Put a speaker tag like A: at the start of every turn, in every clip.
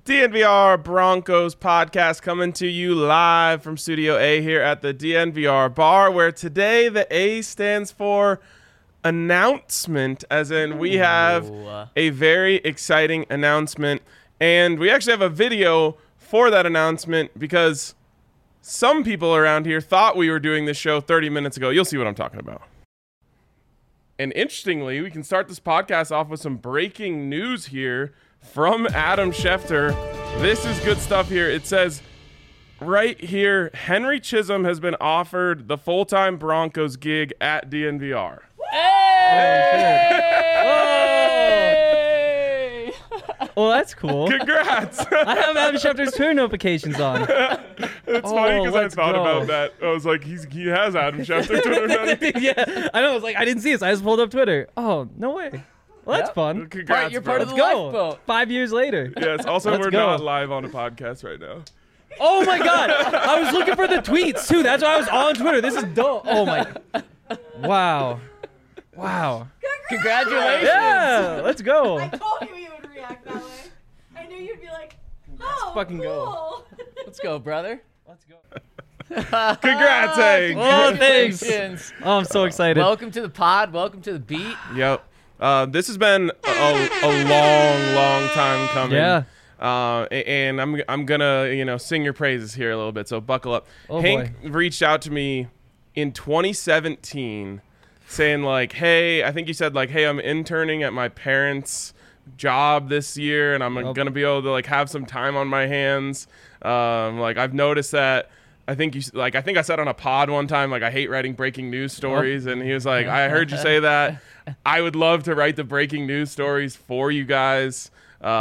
A: DNVR Broncos podcast coming to you live from Studio A here at the DNVR bar, where today the A stands for announcement, as in we have a very exciting announcement, and we actually have a video for that announcement because some people around here thought we were doing this show 30 minutes ago. You'll see what I'm talking about. And interestingly, we can start this podcast off with some breaking news here from Adam Schefter. This is good stuff here. It says right here, Henry Chisholm has been offered the full-time Broncos gig at DNVR.
B: Hey! Well, that's cool.
A: Congrats.
B: I have Adam Schefter's Twitter notifications on.
A: It's funny because I thought about that. I was like, he has Adam Schefter Twitter notifications.
B: Yeah, I know. I was like, I didn't see it, so I just pulled up Twitter. Oh, no way. Well, that's fun.
A: Congrats,
C: You're part of the
B: Let's go.
C: lifeboat.
B: 5 years later.
A: Yes, also
B: Let's
A: we're
B: go.
A: not live on a podcast right now.
B: Oh my God. I was looking for the tweets too. That's why I was on Twitter. This is dope. Oh my. Wow.
C: Congratulations.
B: Yeah. Let's go.
D: I told you you would react that way. I knew you'd be like, oh,
B: fucking go.
D: cool.
C: Let's go, brother.
B: Let's go.
A: Congrats, Hank.
B: Oh, thanks.
C: Congratulations.
B: Oh, I'm so excited.
C: Welcome to the pod. Welcome to the beat.
A: Yep. This has been a long time coming.
B: Yeah.
A: And I'm gonna sing your praises here a little bit. So buckle up.
B: Oh,
A: Hank reached out to me in 2017, saying like, "Hey, I think you said like, hey, I'm interning at my parents' job this year, and I'm gonna be able to like have some time on my hands. Like I've noticed that." I think I said on a pod one time, like, I hate writing breaking news stories. And he was like, I heard you say that. I would love to write the breaking news stories for you guys.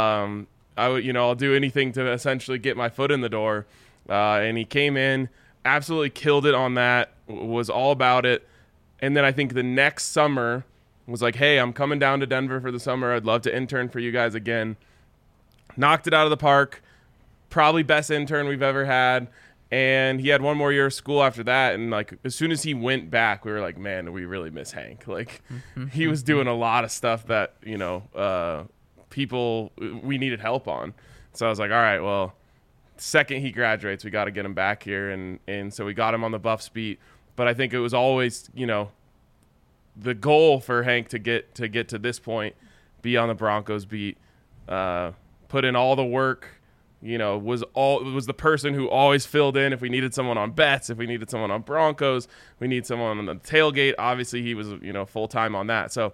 A: I'll do anything to essentially get my foot in the door. And he came in, absolutely killed it on that, was all about it. And then I think the next summer was like, hey, I'm coming down to Denver for the summer. I'd love to intern for you guys again. Knocked it out of the park. Probably best intern we've ever had. And he had one more year of school after that. And like, as soon as he went back, we were like, man, we really miss Hank. Like he was doing a lot of stuff that, people we needed help on. So I was like, all right, well, second he graduates, we got to get him back here. And so we got him on the Buffs beat. But I think it was always, the goal for Hank to get to this point, be on the Broncos beat, put in all the work, was the person who always filled in if we needed someone on bets, if we needed someone on Broncos, we need someone on the tailgate. Obviously he was, full time on that. So,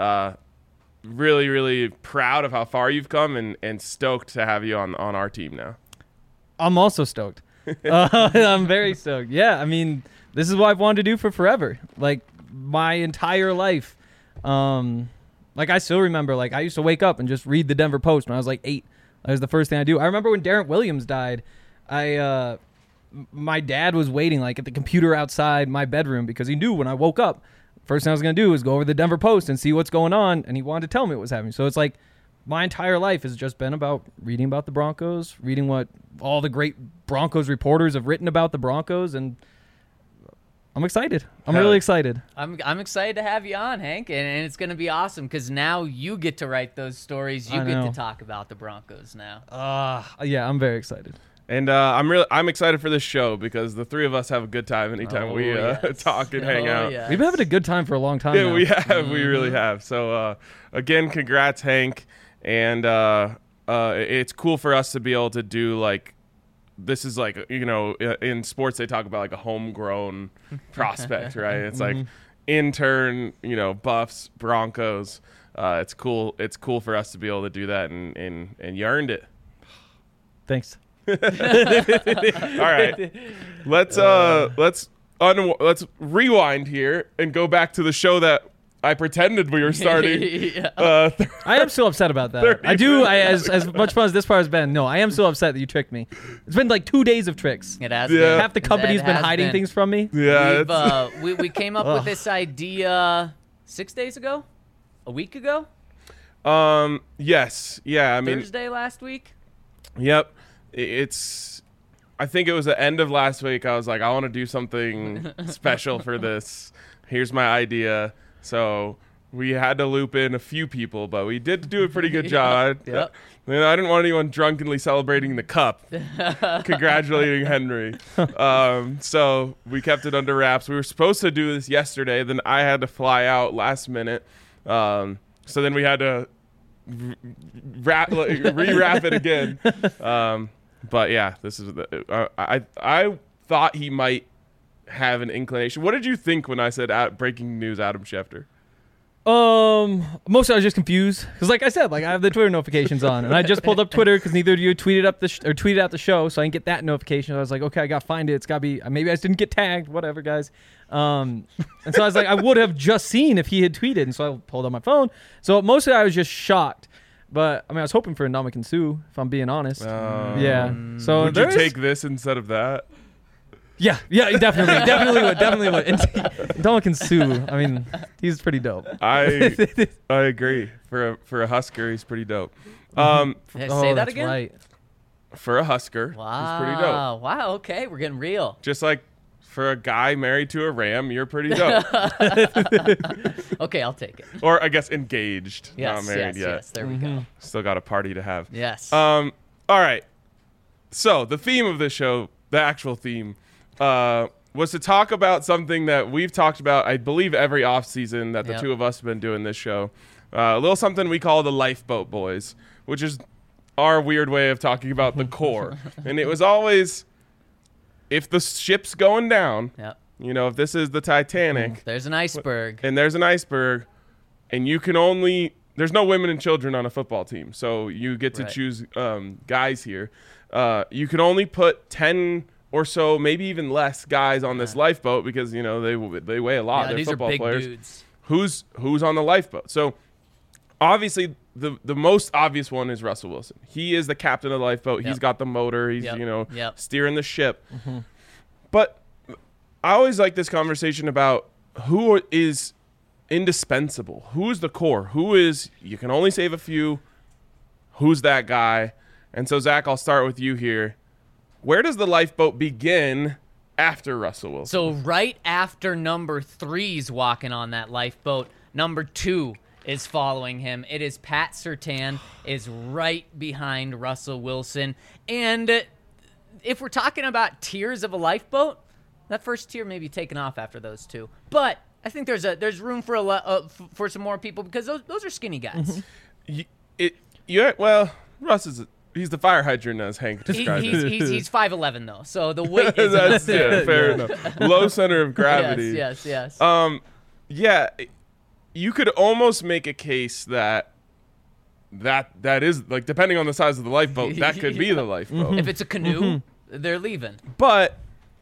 A: really, really proud of how far you've come and stoked to have you on our team now. I'm
B: also stoked. I'm very stoked. Yeah. I mean, this is what I've wanted to do for forever. Like my entire life. Like I still remember, like I used to wake up and just read the Denver Post when I was like 8. That was the first thing I do. I remember when Darren Williams died, my dad was waiting like at the computer outside my bedroom because he knew when I woke up, first thing I was going to do was go over the Denver Post and see what's going on, and he wanted to tell me what was happening. So it's like my entire life has just been about reading about the Broncos, reading what all the great Broncos reporters have written about the Broncos, and I'm excited. I'm really excited.
C: I'm excited to have you on, Hank, and it's going to be awesome because now you get to write those stories. You get to talk about the Broncos now.
B: Yeah, I'm very excited.
A: And I'm excited for this show because the three of us have a good time anytime we talk and hang out.
C: Yes.
B: We've been having a good time for a long time.
A: Yeah,
B: now.
A: we have. Mm-hmm. We really have. So again, congrats, Hank. And it's cool for us to be able to do like. This is like, in sports, they talk about like a homegrown prospect, right? It's like intern, Buffs, Broncos. It's cool. It's cool for us to be able to do that, and you earned it.
B: Thanks.
A: All right, let's rewind here and go back to the show that I pretended we were starting.
C: Yeah.
B: I am still upset about that. I do. As much fun as this part has been, no, I am still upset that you tricked me. It's been like 2 days of tricks.
C: It has
A: Yeah.
C: been.
B: Half the company's been hiding things from me.
A: Yeah,
C: we came up with this idea 6 days ago, a week ago.
A: Yes. Yeah. I mean,
C: Thursday last week.
A: Yep. I think it was the end of last week. I was like, I want to do something special for this. Here's my idea. So we had to loop in a few people, but we did do a pretty good job.
C: Yep.
A: I didn't want anyone drunkenly celebrating the cup, congratulating Henry. So we kept it under wraps. We were supposed to do this yesterday. Then I had to fly out last minute. So then we had to rewrap it again. But yeah, this is I thought he might have an inclination. What did you think when I said breaking news, Adam Schefter?
B: Mostly I was just confused because, like I said, like I have the Twitter notifications on, and I just pulled up Twitter because neither of you tweeted out the show, so I didn't get that notification. I was like, okay, I gotta find it. It's gotta be maybe I just didn't get tagged. Whatever, guys. And so I was like, I would have just seen if he had tweeted, and so I pulled up my phone. So mostly I was just shocked. But I mean, I was hoping for a Ndamukong Suh, if I'm being honest. Yeah. So
A: would you take this instead of that?
B: Yeah, definitely would. And Ndamukong Suh, I mean, he's pretty dope.
A: I agree. For a Husker, he's pretty dope.
C: Say that again.
B: Right.
A: For a Husker, he's pretty dope.
C: Wow. Okay, we're getting real.
A: Just like for a guy married to a Ram, you're pretty dope.
C: Okay, I'll take it.
A: Or I guess engaged,
C: yes,
A: not married yet.
C: Yes, there we go.
A: Still got a party to have.
C: Yes.
A: All right. So the theme of this show, the actual theme, was to talk about something that we've talked about, I believe, every offseason that the two of us have been doing this show. A little something we call the Lifeboat Boys, which is our weird way of talking about the core. And it was always, if the ship's going down, if this is the Titanic.
C: There's an iceberg.
A: And there's an iceberg, and you can only, there's no women and children on a football team, so you get to choose guys here. You can only put 10 or so, maybe even less guys on this lifeboat because, they weigh a lot. They're
C: these
A: football
C: are big
A: players.
C: Dudes.
A: Who's on the lifeboat? So obviously the most obvious one is Russell Wilson. He is the captain of the lifeboat. He's got the motor. He's, steering the ship. Mm-hmm. But I always like this conversation about who is indispensable. Who's the core? You can only save a few. Who's that guy? And so, Zach, I'll start with you here. Where does the lifeboat begin after Russell Wilson?
C: So right after number 3's walking on that lifeboat, number 2 is following him. It is Pat Surtain is right behind Russell Wilson. And if we're talking about tiers of a lifeboat, that first tier may be taken off after those two. But I think there's room for some more people because those are skinny guys.
A: Russ is... He's the fire hydrant, as Hank described it.
C: He's 5'11", though, so the weight is
A: fair enough. Low center of gravity.
C: Yes.
A: Yeah, you could almost make a case that is, like, depending on the size of the lifeboat, that could be the lifeboat.
C: If it's a canoe, they're leaving.
A: But,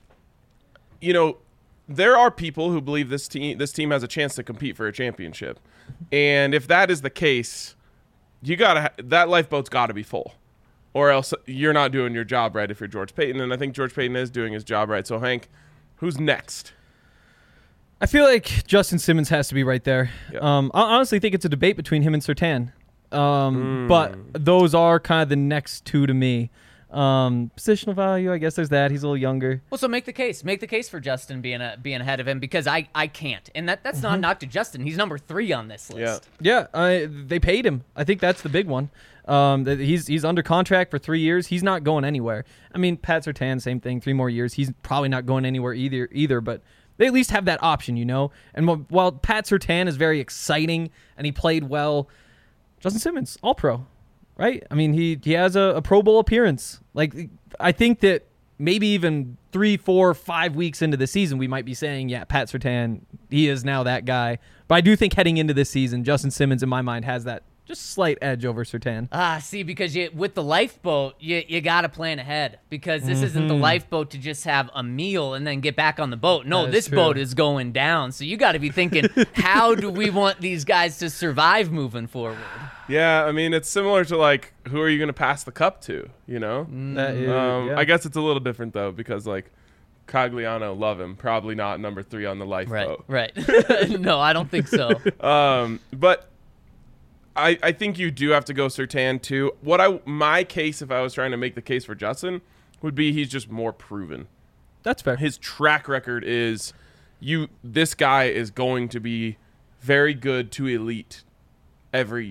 A: there are people who believe this team has a chance to compete for a championship. And if that is the case, that lifeboat's got to be full. Or else you're not doing your job right if you're George Paton, and I think George Paton is doing his job right. So, Hank, who's next?
B: I feel like Justin Simmons has to be right there.
A: Yep.
B: I honestly think it's a debate between him and Surtain. But those are kind of the next two to me. Positional value, I guess there's that. He's a little younger.
C: Well, so make the case. Make the case for Justin being ahead of him because I can't. And that's not a knock to Justin. He's number 3 on this list.
B: Yeah, they paid him. I think that's the big one. He's under contract for 3 years. He's not going anywhere. I mean, Pat Surtain, same thing, 3 more years. He's probably not going anywhere either, but they at least have that option, And while Pat Surtain is very exciting and he played well, Justin Simmons, all-pro. Right? I mean, he has a Pro Bowl appearance. Like, I think that maybe even 3, 4, 5 weeks into the season, we might be saying, yeah, Pat Surtain, he is now that guy. But I do think heading into this season, Justin Simmons, in my mind, has that just slight edge over Surtain.
C: See, because with the lifeboat, you got to plan ahead because this isn't the lifeboat to just have a meal and then get back on the boat. No, this boat is going down. So you got to be thinking, how do we want these guys to survive moving forward?
A: Yeah, I mean, it's similar to, like, who are you going to pass the cup to, I guess it's a little different, though, because, like, Cogliano, love him. Probably not number 3 on the lifeboat.
C: Right. No, I don't think so.
A: But I think you do have to go Surtain, too. My case, if I was trying to make the case for Justin, would be he's just more proven.
B: That's fair.
A: His track record is this guy is going to be very good to elite every year.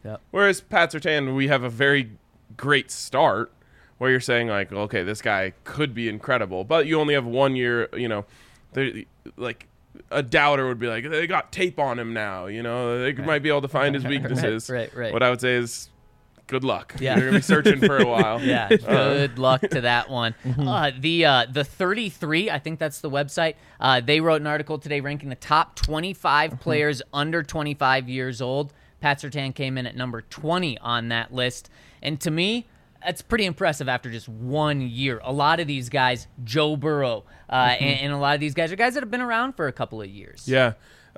C: Yep.
A: Whereas Pat Surtain, we have a very great start where you're saying like, okay, this guy could be incredible, but you only have 1 year. Like a doubter would be like, they got tape on him now. They might be able to find his weaknesses.
C: Right.
A: What I would say is, good luck.
C: Yeah.
A: You're gonna be searching for a while.
C: Yeah, good luck to that one. The 33, I think that's the website. They wrote an article today ranking the top 25 players under 25 years old. Pat Surtain came in at number 20 on that list. And to me, that's pretty impressive after just 1 year. A lot of these guys, Joe Burrow, and a lot of these guys are guys that have been around for a couple of years.
A: Yeah.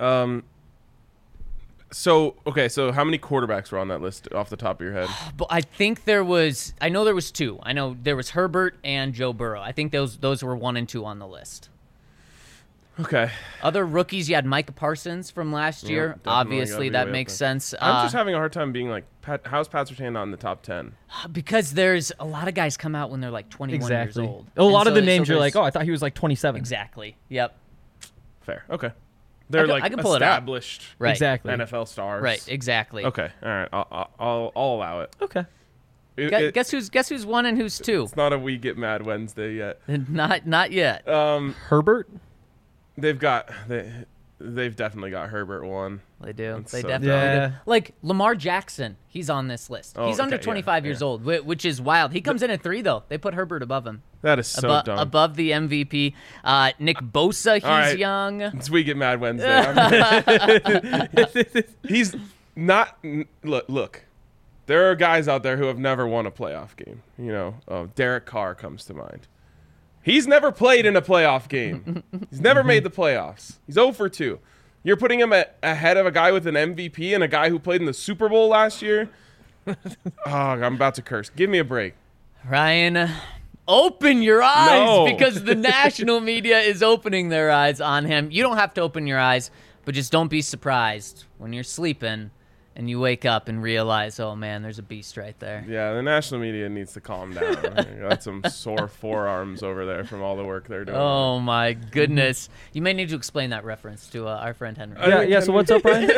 A: So how many quarterbacks were on that list off the top of your head?
C: But I think I know there was two. I know there was Herbert and Joe Burrow. I think those were 1 and 2 on the list.
A: Okay.
C: Other rookies, you had Micah Parsons from last year.
A: Definitely
C: Obviously,
A: gotta be
C: that
A: way
C: makes
A: up there.
C: sense.
A: I'm just having a hard time being like, how's Pat Surtain not in the top 10?
C: Because there's a lot of guys come out when they're like 21 years old.
B: A lot
C: And
B: of the
C: so
B: names you're
C: there's-
B: like, oh, I thought he was like 27.
C: Exactly. Yep.
A: Fair. Okay. They're
C: I can pull it up.
A: established
C: Right.
B: Exactly.
A: NFL stars.
C: Right. Exactly.
A: Okay. All right. I'll allow it.
B: Okay.
C: Guess who's 1 and who's 2?
A: It's not a We Get Mad Wednesday yet.
C: Not yet.
B: Herbert?
A: They've definitely got Herbert 1.
C: They do.
A: That's
C: They
A: so
C: definitely
B: dumb.
C: do. Like Lamar Jackson, he's on this list.
A: Oh,
C: He's under
A: okay,
C: 25 years old, which is wild. He comes in at 3 though. They put Herbert above him.
A: That is so dumb.
C: Above the MVP. Nick Bosa, he's
A: right.
C: young.
A: It's We Get Mad Wednesday. He's not. Look. There are guys out there who have never won a playoff game. Derek Carr comes to mind. He's never played in a playoff game. He's never made the playoffs. He's 0 for 2. You're putting him ahead of a guy with an MVP and a guy who played in the Super Bowl last year? I'm about to curse. Give me a break.
C: Ryan, open your eyes
A: No.
C: because the national media is opening their eyes on him. You don't have to open your eyes, but just don't be surprised when you're sleeping and you wake up and realize, oh man, there's a beast right there.
A: Yeah, the national media needs to calm down. Got some sore forearms over there from all the work they're doing.
C: Oh my goodness. You may need to explain that reference to our friend Henry.
B: Yeah. So what's up, Brian?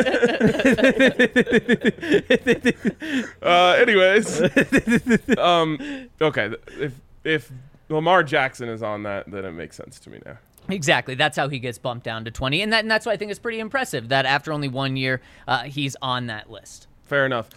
A: Anyways, okay. If Lamar Jackson is on that, then it makes sense to me now.
C: Exactly. That's how he gets bumped down to 20. And that's why I think it's pretty impressive that after only 1 year, he's on that list.
A: Fair enough.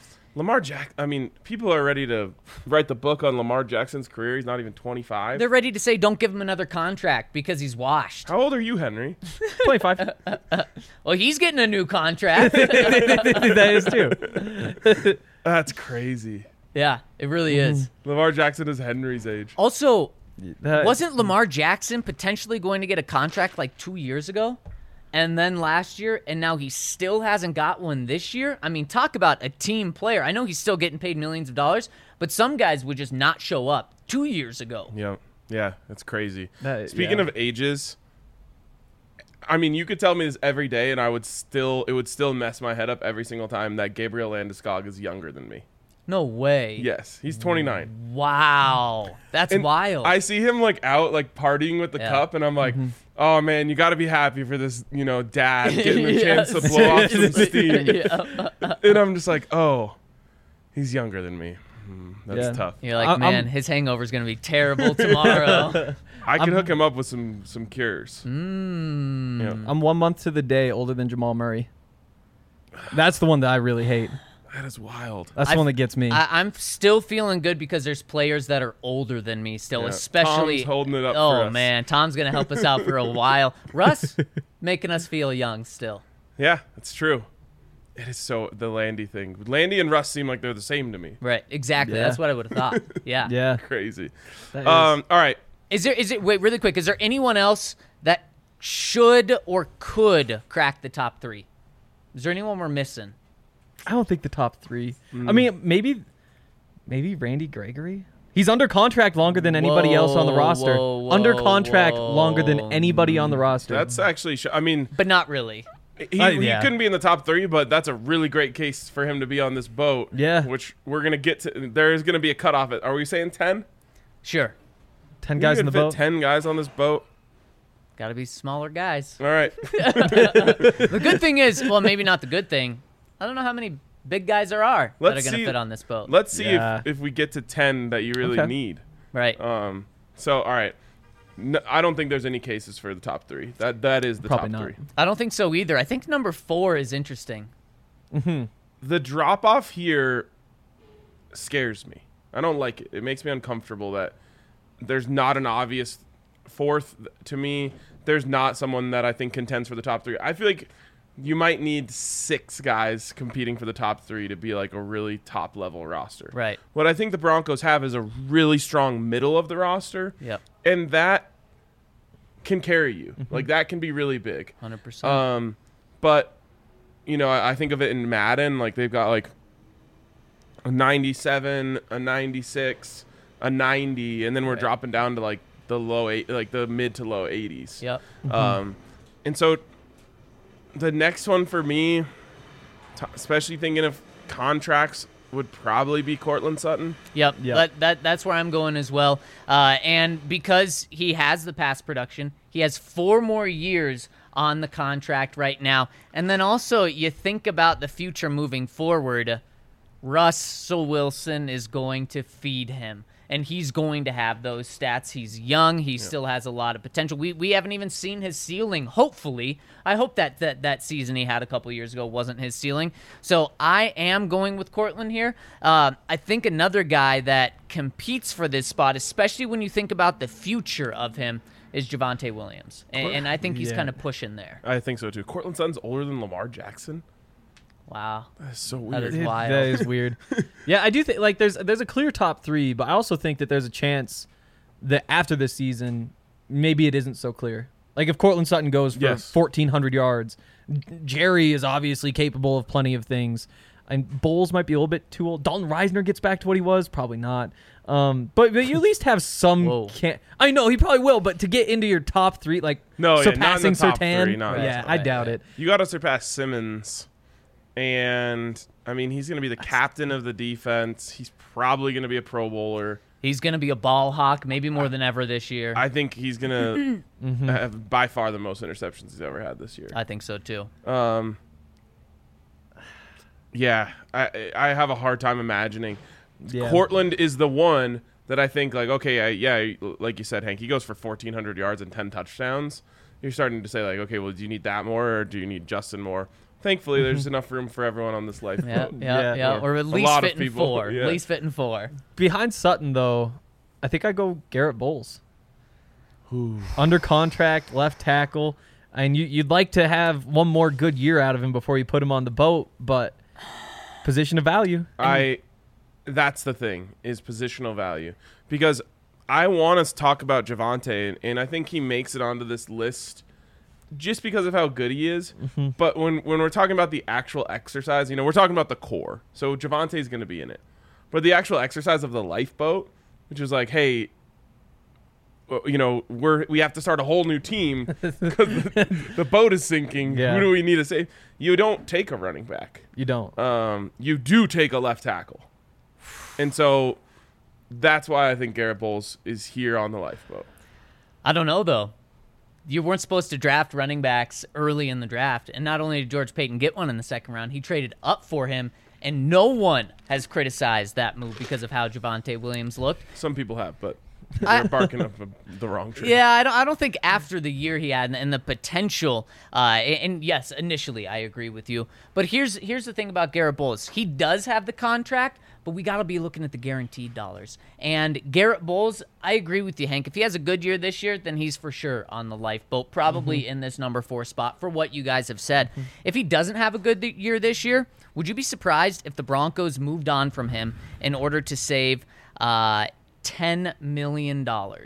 A: People are ready to write the book on Lamar Jackson's career. He's not even 25.
C: They're ready to say don't give him another contract because he's washed.
A: How old are you, Henry?
B: 25.
C: Well, he's getting a new contract.
B: That is too.
A: That's crazy.
C: Yeah, it really is.
A: Lamar Jackson is Henry's age.
C: Also, wasn't Lamar Jackson potentially going to get a contract like 2 years ago? And then last year, and now he still hasn't got one this year? I mean, talk about a team player. I know he's still getting paid millions of dollars, but some guys would just not show up 2 years ago.
A: Yeah, that's crazy.
B: Speaking
A: of ages, you could tell me this every day, and it would still mess my head up every single time that Gabriel Landeskog is younger than me.
C: No way.
A: Yes, he's 29.
C: Wow. That's
A: And
C: wild.
A: I see him out partying with the cup, and I'm like, oh man, you got to be happy for this, dad getting the chance to blow off some steam. And I'm just like, oh, he's younger than me. That's tough.
C: You're like, man, his hangover is going to be terrible tomorrow.
A: I can hook him up with some cures.
B: I'm 1 month to the day older than Jamal Murray. That's the one that I really hate.
A: That is wild.
B: That's the one that gets me.
C: I'm still feeling good because there's players that are older than me still, especially.
A: Tom's holding it up
C: Oh,
A: for us.
C: man. Tom's going to help us out for a while. Russ, making us feel young still.
A: Yeah, that's true. It is the Landy thing. Landy and Russ seem like they're the same to me.
C: Right. Exactly.
B: Yeah.
C: That's what I would have thought. Yeah.
B: Yeah.
A: Crazy.
B: That is.
A: All right.
C: Wait, really quick. Is there anyone else that should or could crack the top 3? Is there anyone we're missing?
B: I don't think the top 3. I mean, maybe Randy Gregory. He's under contract longer than anybody else on the roster. Under contract longer than anybody on the roster.
A: That's actually
C: But not really.
A: he couldn't be in the top 3, but that's a really great case for him to be on this boat.
B: Yeah.
A: Which we're going to get to. There is going to be a cutoff. Are we saying 10?
C: Sure.
B: 10 guys in the boat.
A: 10 guys on this boat.
C: Got to be smaller guys.
A: All right.
C: The good thing is, well, maybe not the good thing. I don't know how many Big guys that are going to fit on this boat.
A: Let's see if we get to 10 that you really need.
C: Right.
A: So, all right. No, I don't think there's any cases for the top 3. That is the
B: Probably
A: top
B: not.
A: 3.
C: I don't think so either. I think number 4 is interesting.
A: The drop-off here scares me. I don't like it. It makes me uncomfortable that there's not an obvious 4th to me. There's not someone that I think contends for the top 3. I feel like you might need 6 guys competing for the top 3 to be like a really top-level roster.
C: Right.
A: What I think the Broncos have is a really strong middle of the roster.
C: Yep.
A: And that can carry you. Like, that can be really big.
C: 100%.
A: But, you know, I think of it in Madden. Like, they've got, like, a 97, a 96, a 90, and then we're dropping down to, like, the mid to low 80s.
C: Yep.
A: And so the next one for me, especially thinking of contracts, would probably be Courtland Sutton.
C: Yep. That's where I'm going as well. And because he has the pass production, he has 4 more years on the contract right now. And then also you think about the future moving forward. Russell Wilson is going to feed him, and he's going to have those stats. He's young. He still has a lot of potential. We haven't even seen his ceiling, hopefully. I hope that season he had a couple years ago wasn't his ceiling. So I am going with Courtland here. I think another guy that competes for this spot, especially when you think about the future of him, is Javonte Williams. And I think he's kind of pushing there.
A: I think so, too. Courtland Sutton's older than Lamar Jackson.
C: Wow.
A: That's so weird.
C: That is wild.
B: That is weird. Yeah, I do think like there's a clear top 3, but I also think that there's a chance that after this season, maybe it isn't so clear. Like if Courtland Sutton goes for 1,400 yards, Jerry is obviously capable of plenty of things. And Bowles might be a little bit too old. Dalton Reisner gets back to what he was, probably not. But you at least have some. I know he probably will, but to get into your top 3, like surpassing Surtain, I doubt it.
A: You got to surpass Simmons. And, I mean, he's going to be the captain of the defense. He's probably going to be a Pro Bowler.
C: He's going to be a ball hawk, maybe more than ever this year.
A: I think he's going to have by far the most interceptions he's ever had this year.
C: I think so, too.
A: Yeah, I have a hard time imagining. Courtland is the one that I think, like, okay, like you said, Hank, he goes for 1,400 yards and 10 touchdowns. You're starting to say, like, okay, well, do you need that more or do you need Justin more? Thankfully, there's enough room for everyone on this lifeboat.
C: Or at least fitting 4. At least fitting 4.
B: Behind Sutton, though, I think I go Garrett Bowles. Under contract, left tackle. And you'd like to have one more good year out of him before you put him on the boat, but position of value.
A: That's the thing, is positional value. Because I want us to talk about Javonte, and I think he makes it onto this list just because of how good he is. But when we're talking about the actual exercise, you know, we're talking about the core. So Javonte's going to be in it. But the actual exercise of the lifeboat, which is like, hey, you know, we have to start a whole new team because the boat is sinking. Who do we need to save? You don't take a running back.
B: You don't.
A: You do take a left tackle. And so that's why I think Garrett Bowles is here on the lifeboat.
C: I don't know, though. You weren't supposed to draft running backs early in the draft. And not only did George Payton get one in the second round, he traded up for him. And no one has criticized that move because of how Javonte Williams looked.
A: Some people have, but they're barking up the wrong tree.
C: Yeah, I don't think after the year he had and the potential, and yes, initially I agree with you. But here's the thing about Garrett Bowles. He does have the contract, but we got to be looking at the guaranteed dollars. And Garrett Bowles, I agree with you, Hank. If he has a good year this year, then he's for sure on the lifeboat, probably in this number 4 spot for what you guys have said. If he doesn't have a good year this year, would you be surprised if the Broncos moved on from him in order to save $10 million?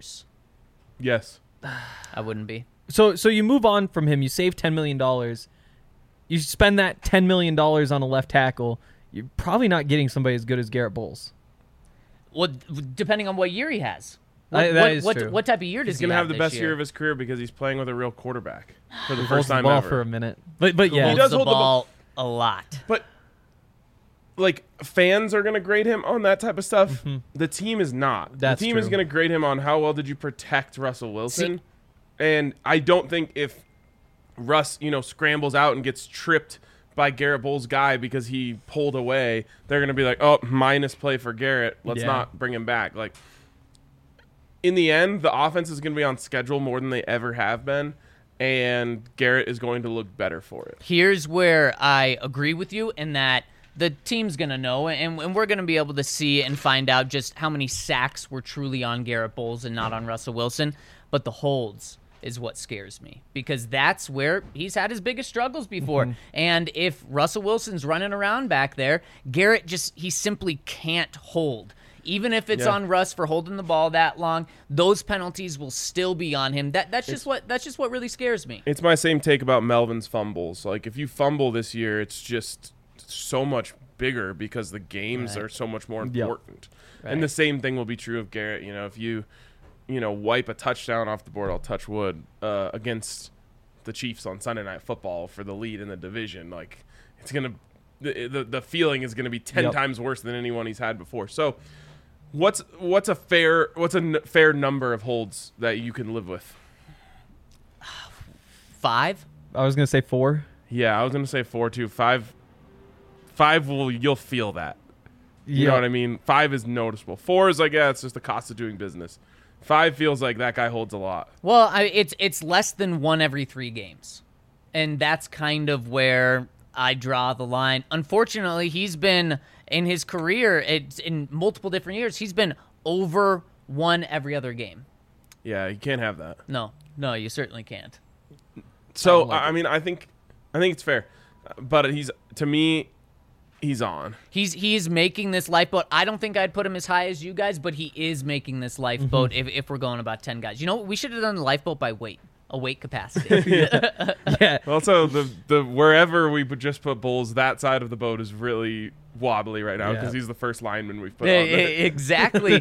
A: Yes.
C: I wouldn't be.
B: So you move on from him. You save $10 million. You spend that $10 million on a left tackle. You're probably not getting somebody as good as Garrett Bowles.
C: Well, depending on what year he has.
B: That is true.
C: What type of year does he have?
A: He's going to have the best
C: year
A: year of his career because he's playing with a real quarterback for the
B: He
A: first
B: holds the
A: time
B: ball
A: ever.
B: for a minute. But yeah.
C: He does hold the ball a lot.
A: But like, fans are going to grade him on that type of stuff. The team is not.
B: That's
A: the team
B: true.
A: is going to grade him on how well did you protect Russell Wilson. And I don't think if Russ, scrambles out and gets tripped by Garrett Bowles' guy because he pulled away, they're going to be like, oh, minus play for Garrett. Let's not bring him back. Like, in the end, the offense is going to be on schedule more than they ever have been, and Garrett is going to look better for it.
C: Here's where I agree with you in that the team's going to know, and we're going to be able to see and find out just how many sacks were truly on Garrett Bowles and not on Russell Wilson. But the holds is what scares me, because that's where he's had his biggest struggles before. And if Russell Wilson's running around back there, Garrett he simply can't hold. Even if it's on Russ for holding the ball that long, those penalties will still be on him. That's just what really scares me.
A: It's my same take about Melvin's fumbles. Like, if you fumble this year, it's just so much bigger because the games are so much more important.
C: Right.
A: And the same thing will be true of Garrett. You know, if you wipe a touchdown off the board, I'll touch wood, against the Chiefs on Sunday Night Football for the lead in the division, like, it's going to the feeling is going to be 10 times worse than anyone he's had before. So what's a fair number of holds that you can live with?
C: 5?
B: I was gonna say 4.
A: Yeah, I was gonna say 4 too. 5 you'll feel that. You know what I mean? 5 is noticeable. 4 is like, it's just the cost of doing business. 5 feels like that guy holds a lot.
C: Well, it's less than 1 every 3 games, and that's kind of where I draw the line. Unfortunately, he's been in his career, in multiple different years, he's been over 1 every other game.
A: Yeah, you can't have that.
C: No, you certainly can't.
A: So I mean, I think it's fair, but to me, he's on.
C: He's making this lifeboat. I don't think I'd put him as high as you guys, but he is making this lifeboat. If we're going about 10 guys, you know what? We should have done the lifeboat by weight. A weight capacity.
B: Yeah.
A: Also, the wherever we would just put Bowles, that side of the boat is really wobbly right now because he's the first lineman we've put on there.
C: Exactly.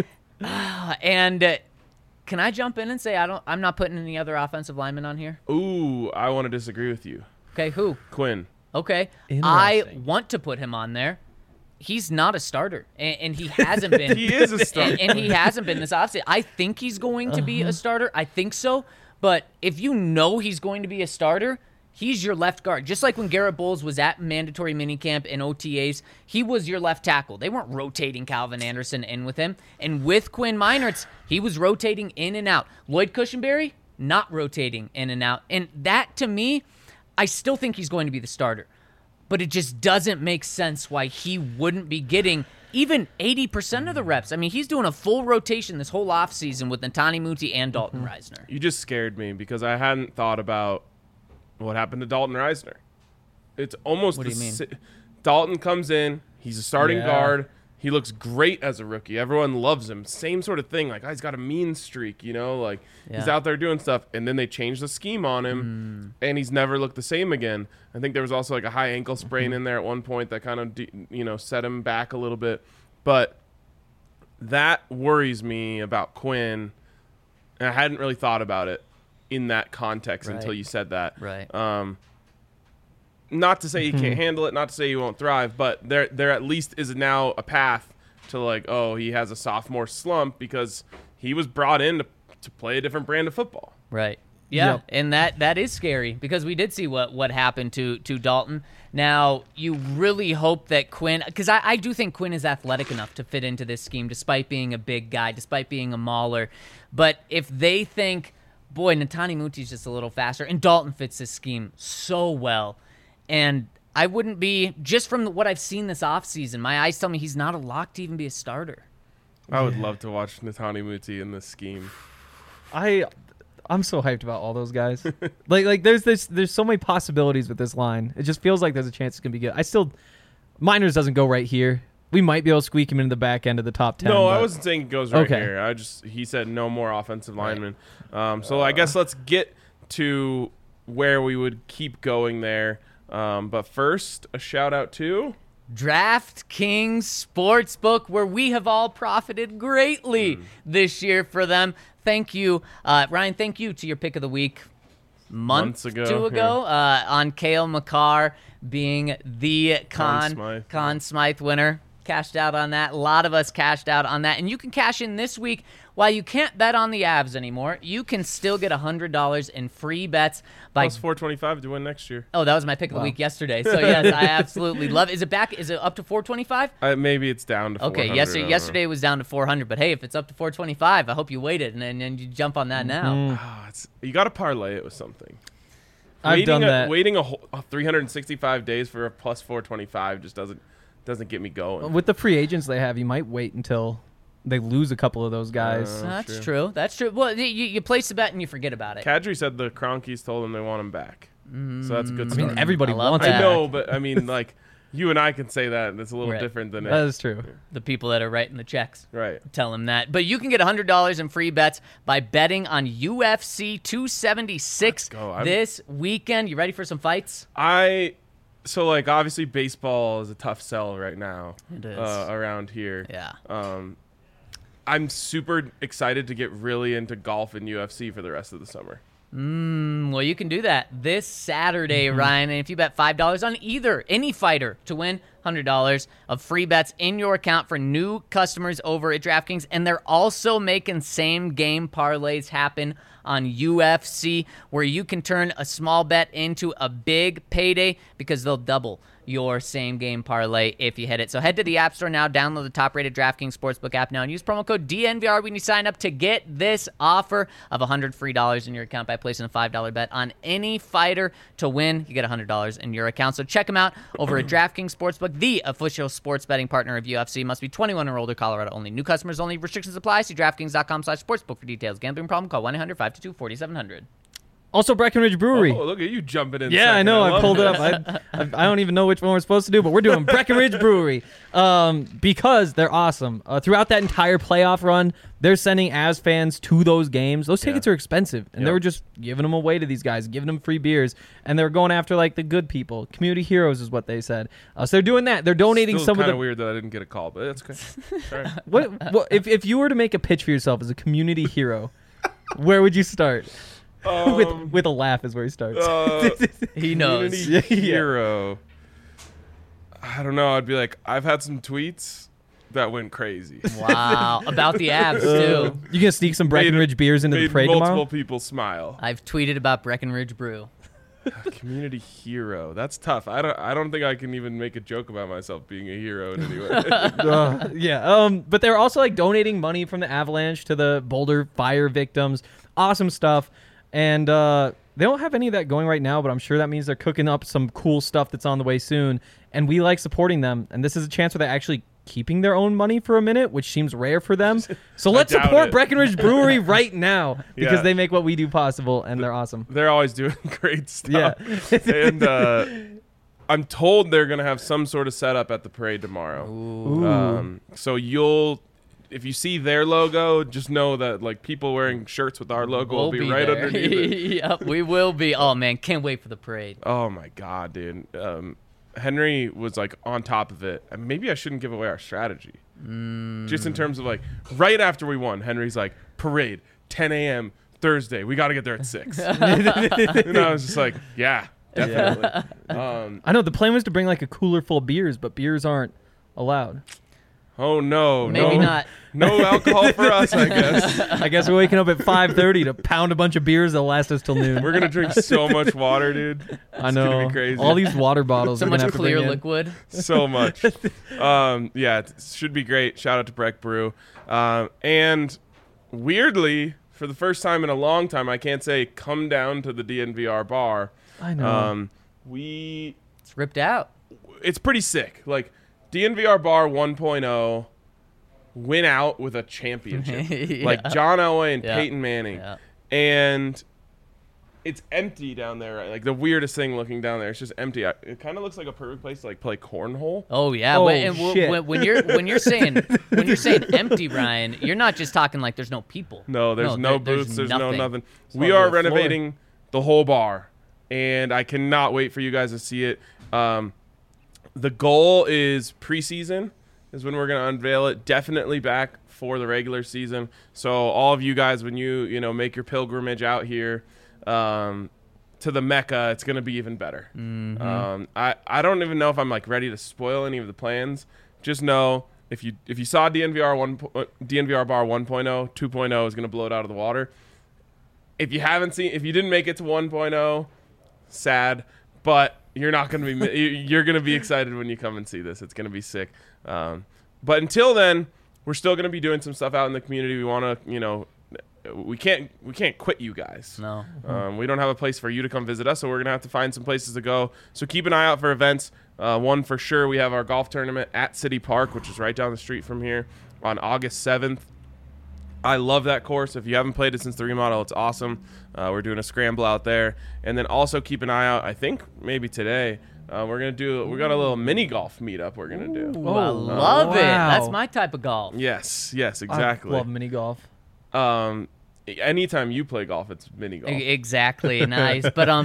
C: And can I jump in and say I'm not putting any other offensive linemen on here?
A: Ooh, I want to disagree with you.
C: Okay, who?
A: Quinn.
C: Okay, I want to put him on there. He's not a starter, and he hasn't been.
A: He is a starter.
C: And he hasn't been this offseason. I think he's going to be a starter. I think so. But if you know he's going to be a starter, he's your left guard. Just like when Garrett Bowles was at mandatory minicamp and OTAs, he was your left tackle. They weren't rotating Calvin Anderson in with him. And with Quinn Meinerz, he was rotating in and out. Lloyd Cushenberry, not rotating in and out. And that, to me, I still think he's going to be the starter. But it just doesn't make sense why he wouldn't be getting even 80% of the reps. I mean, he's doing a full rotation this whole offseason with Netani Muti and Dalton Reisner.
A: You just scared me because I hadn't thought about what happened to Dalton Reisner. It's almost
C: What do you mean?
A: Dalton comes in, he's a starting guard. He looks great as a rookie. Everyone loves him. Same sort of thing. Like, he's got a mean streak, like he's out there doing stuff. And then they changed the scheme on him, and he's never looked the same again. I think there was also like a high ankle sprain in there at one point that kind of, set him back a little bit. But that worries me about Quinn. And I hadn't really thought about it in that context until you said that.
C: Right.
A: Not to say he can't handle it, not to say he won't thrive, but there at least is now a path to like, he has a sophomore slump because he was brought in to play a different brand of football.
C: Right. Yeah, and that is scary because we did see what happened to Dalton. Now, you really hope that Quinn, because I do think Quinn is athletic enough to fit into this scheme despite being a big guy, despite being a mauler. But if they think, boy, Netani Muti's just a little faster, and Dalton fits this scheme so well, and I wouldn't be, just from what I've seen this offseason, my eyes tell me he's not a lock to even be a starter.
A: I would love to watch Netani Muti in this scheme.
B: I'm so hyped about all those guys. like there's so many possibilities with this line. It just feels like there's a chance it's gonna be good. Meinerz doesn't go right here. We might be able to squeak him into the back end of the top 10.
A: No, I wasn't saying it goes right here. He said no more offensive linemen. So I guess let's get to where we would keep going there. But first, a shout out to
C: DraftKings Sportsbook, where we have all profited greatly this year for them. Thank you, Ryan. Thank you to your pick of the week months ago on Cale Makar being the Conn Smythe winner. cashed out on that. A lot of us cashed out on that. And you can cash in this week. While you can't bet on the Avs anymore, you can still get $100 in free bets by
A: Plus 425 to win next year.
C: Oh, that was my pick of the week yesterday. So yes, I absolutely love it. Is it back? Is it up to 425?
A: Maybe it's down to 400.
C: Okay, yesterday it was down to 400, but hey, if it's up to 425, I hope you waited and you jump on that now.
A: You got to parlay it with something.
B: I've done that.
A: Waiting a whole 365 days for a plus 425 just doesn't get me going.
B: With the free agents they have, you might wait until they lose a couple of those guys.
C: That's true. That's true. Well, you place the bet and you forget about it.
A: Kadri said the Kroenkes told him they want him back. So that's a good start.
B: I mean, everybody wants
C: that.
B: it.
A: I know, but I mean, like, you and I can say that. And it's a little different than
B: That is true.
C: The people that are writing the checks.
A: Right.
C: Tell them that. But you can get $100 in free bets by betting on UFC 276 this weekend. You ready for some fights?
A: So, like, obviously baseball is a tough sell right now.
C: It is.
A: Around here.
C: Yeah.
A: I'm super excited to get really into golf and UFC for the rest of the summer.
C: Well, you can do that this Saturday, Ryan. And if you bet $5 on any fighter to win $100 of free bets in your account for new customers over at DraftKings. And they're also making same-game parlays happen on UFC, where you can turn a small bet into a big payday because they'll double your same-game parlay if you hit it. So head to the App Store now, download the top-rated DraftKings Sportsbook app now, and use promo code DNVR when you sign up to get this offer of $100 free in your account by placing a $5 bet on any fighter to win. You get $100 in your account. So check them out over at DraftKings Sportsbook, the official sports betting partner of UFC. Must be 21 or older, Colorado only. New customers only. Restrictions apply. See DraftKings.com/sportsbook for details. Gambling problem? Call 1-800-522-4700.
B: Also, Breckenridge Brewery.
A: Oh, look at you jumping in.
B: Yeah,
A: second.
B: I know. I pulled it
A: this.
B: up. I don't even know which one we're supposed to do, but we're doing Breckenridge Brewery because they're awesome. Throughout that entire playoff run, they're sending Avs fans to those games. Those tickets are expensive, and they were just giving them away to these guys, giving them free beers, and they're going after like the good people. Community heroes is what they said. So they're doing that. They're donating
A: Still
B: some of the.
A: Kind of weird that I didn't get a call, but it's okay. Sorry.
B: What if you were to make a pitch for yourself as a community hero, where would you start? With a laugh is where he starts.
C: He knows.
A: Community hero. I don't know. I'd be like, I've had some tweets that went crazy.
C: Wow. About the Avs, too.
B: You gonna sneak some Breckenridge beers into the parade
A: multiple
B: tomorrow?
A: people smile.
C: I've tweeted about Breckenridge Brew.
A: Community hero. That's tough. I don't think I can even make a joke about myself being a hero in any way.
B: But they're also like donating money from the avalanche to the Boulder fire victims. Awesome stuff. And they don't have any of that going right now, but I'm sure that means they're cooking up some cool stuff that's on the way soon. And we like supporting them. And this is a chance where they're actually keeping their own money for a minute, which seems rare for them. So let's support Breckenridge Brewery right now because they make what we do possible, and they're awesome.
A: They're always doing great stuff. Yeah. And I'm told they're going to have some sort of setup at the parade tomorrow. So if you see their logo, just know that like people wearing shirts with our logo will be right underneath it.
C: Yep, we will be. Oh man, can't wait for the parade.
A: Oh my god, dude. Henry was like on top of it. And maybe I shouldn't give away our strategy. Just in terms of like right after we won, Henry's like, parade, 10 a.m. Thursday. We got to get there at 6. And I was just like, yeah, definitely.
B: I know the plan was to bring like a cooler full of beers, but beers aren't allowed.
A: Oh no,
C: maybe not.
A: No alcohol for us, I guess.
B: I guess we're waking up at 5:30 to pound a bunch of beers that'll last us till noon.
A: We're gonna drink so much water, dude.
B: I know.
A: It's gonna be crazy.
B: All these water bottles.
C: So
B: we're
C: much
B: gonna have
C: clear
B: to bring
C: liquid.
A: So much. Yeah, it should be great. Shout out to Breck Brew. And weirdly, for the first time in a long time, I can't say come down to the DNVR bar.
B: I know.
C: It's ripped out.
A: It's pretty sick. Like DNVR bar 1.0 went out with a championship. Like John Elway and Peyton Manning. Yeah. And it's empty down there, right? Like the weirdest thing looking down there. It's just empty. It kind of looks like a perfect place to like play cornhole.
C: Oh yeah.
B: Shit.
C: When you're saying empty, Ryan, you're not just talking like there's no people.
A: No, there's no booths. There's no nothing. We
B: all
A: are
B: the floor.
A: renovating the whole bar, and I cannot wait for you guys to see it. The goal is preseason is when we're going to unveil it. Definitely back for the regular season. So all of you guys, when you make your pilgrimage out here to the Mecca, it's going to be even better.
C: Mm-hmm.
A: I don't even know if I'm like ready to spoil any of the plans just know if you saw DNVR bar 1.0, 2.0 is going to blow it out of the water. If you didn't make it to 1.0, sad, but you're not going to be you're going to be excited when you come and see this. It's going to be sick. But until then, we're still going to be doing some stuff out in the community. We want to, we can't quit you guys.
C: No.
A: We don't have a place for you to come visit us, so we're going to have to find some places to go. So keep an eye out for events. One for sure, we have our golf tournament at City Park, which is right down the street from here, on August 7th. I love that course. If you haven't played it since the remodel, it's awesome. We're doing a scramble out there. And then also keep an eye out, I think maybe today, we got a little mini golf meetup we're going to do.
C: Ooh, I love it.
B: wow.
C: That's my type of golf.
A: Yes, exactly.
B: I love mini golf.
A: Anytime you play golf, it's mini golf.
C: Exactly. Nice. But
A: but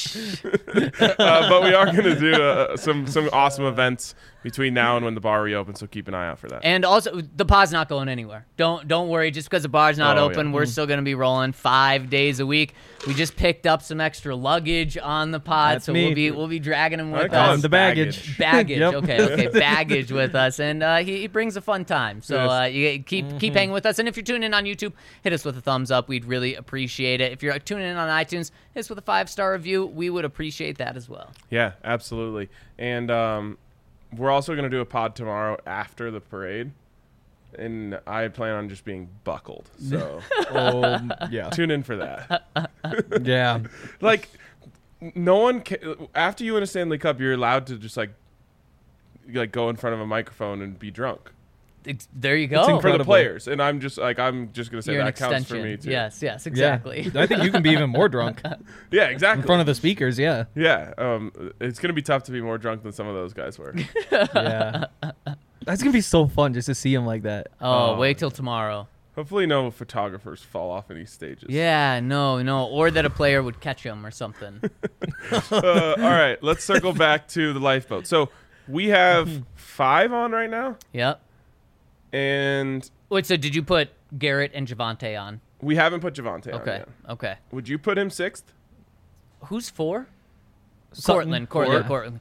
A: we are going to do some awesome events between now and when the bar reopens, so keep an eye out for that.
C: And also, the pod's not going anywhere. Don't worry. Just because the bar's not open, we're still going to be rolling 5 days a week. We just picked up some extra luggage on the pod,
B: That's
C: so
B: me.
C: we'll be dragging him with
A: call
C: us.
A: it
B: The baggage.
C: Baggage.
B: Yep.
C: Okay. Baggage with us, and he brings a fun time. So you keep hanging with us. And if you're tuning in on YouTube, hit us with a thumbs up. We'd really appreciate it. If you're tuning in on iTunes, hit us with a 5-star review. We would appreciate that as well.
A: Yeah, absolutely. And we're also going to do a pod tomorrow after the parade, and I plan on just being buckled. So
B: Yeah.
A: tune in for that.
B: Yeah.
A: Like, no one after you win a Stanley Cup, you're allowed to just like go in front of a microphone and be drunk.
C: There you
A: For
C: go.
A: the
B: Incredible.
A: players, and I'm just gonna say
C: You're an
A: that counts
C: extension.
A: for me too.
C: Yes, exactly.
B: Yeah. I think you can be even more drunk
A: Yeah,
B: in
A: exactly.
B: front of the speakers. Yeah.
A: Yeah, it's gonna be tough to be more drunk than some of those guys were.
B: Yeah. That's going to be so fun just to see him like that.
C: Oh, wait till tomorrow.
A: Hopefully, no photographers fall off any stages.
C: Yeah, no, or that a player would catch him or something.
A: All right, let's circle back to the lifeboat. So we have 5 on right now,
C: Yep.
A: and
C: Wait, so did you put Garrett and Javante on?
A: we haven't put Javante on
C: Okay,
A: yet.
C: okay.
A: Would you put him 6th?
C: Who's 4?
B: Sutton.
C: Cortland.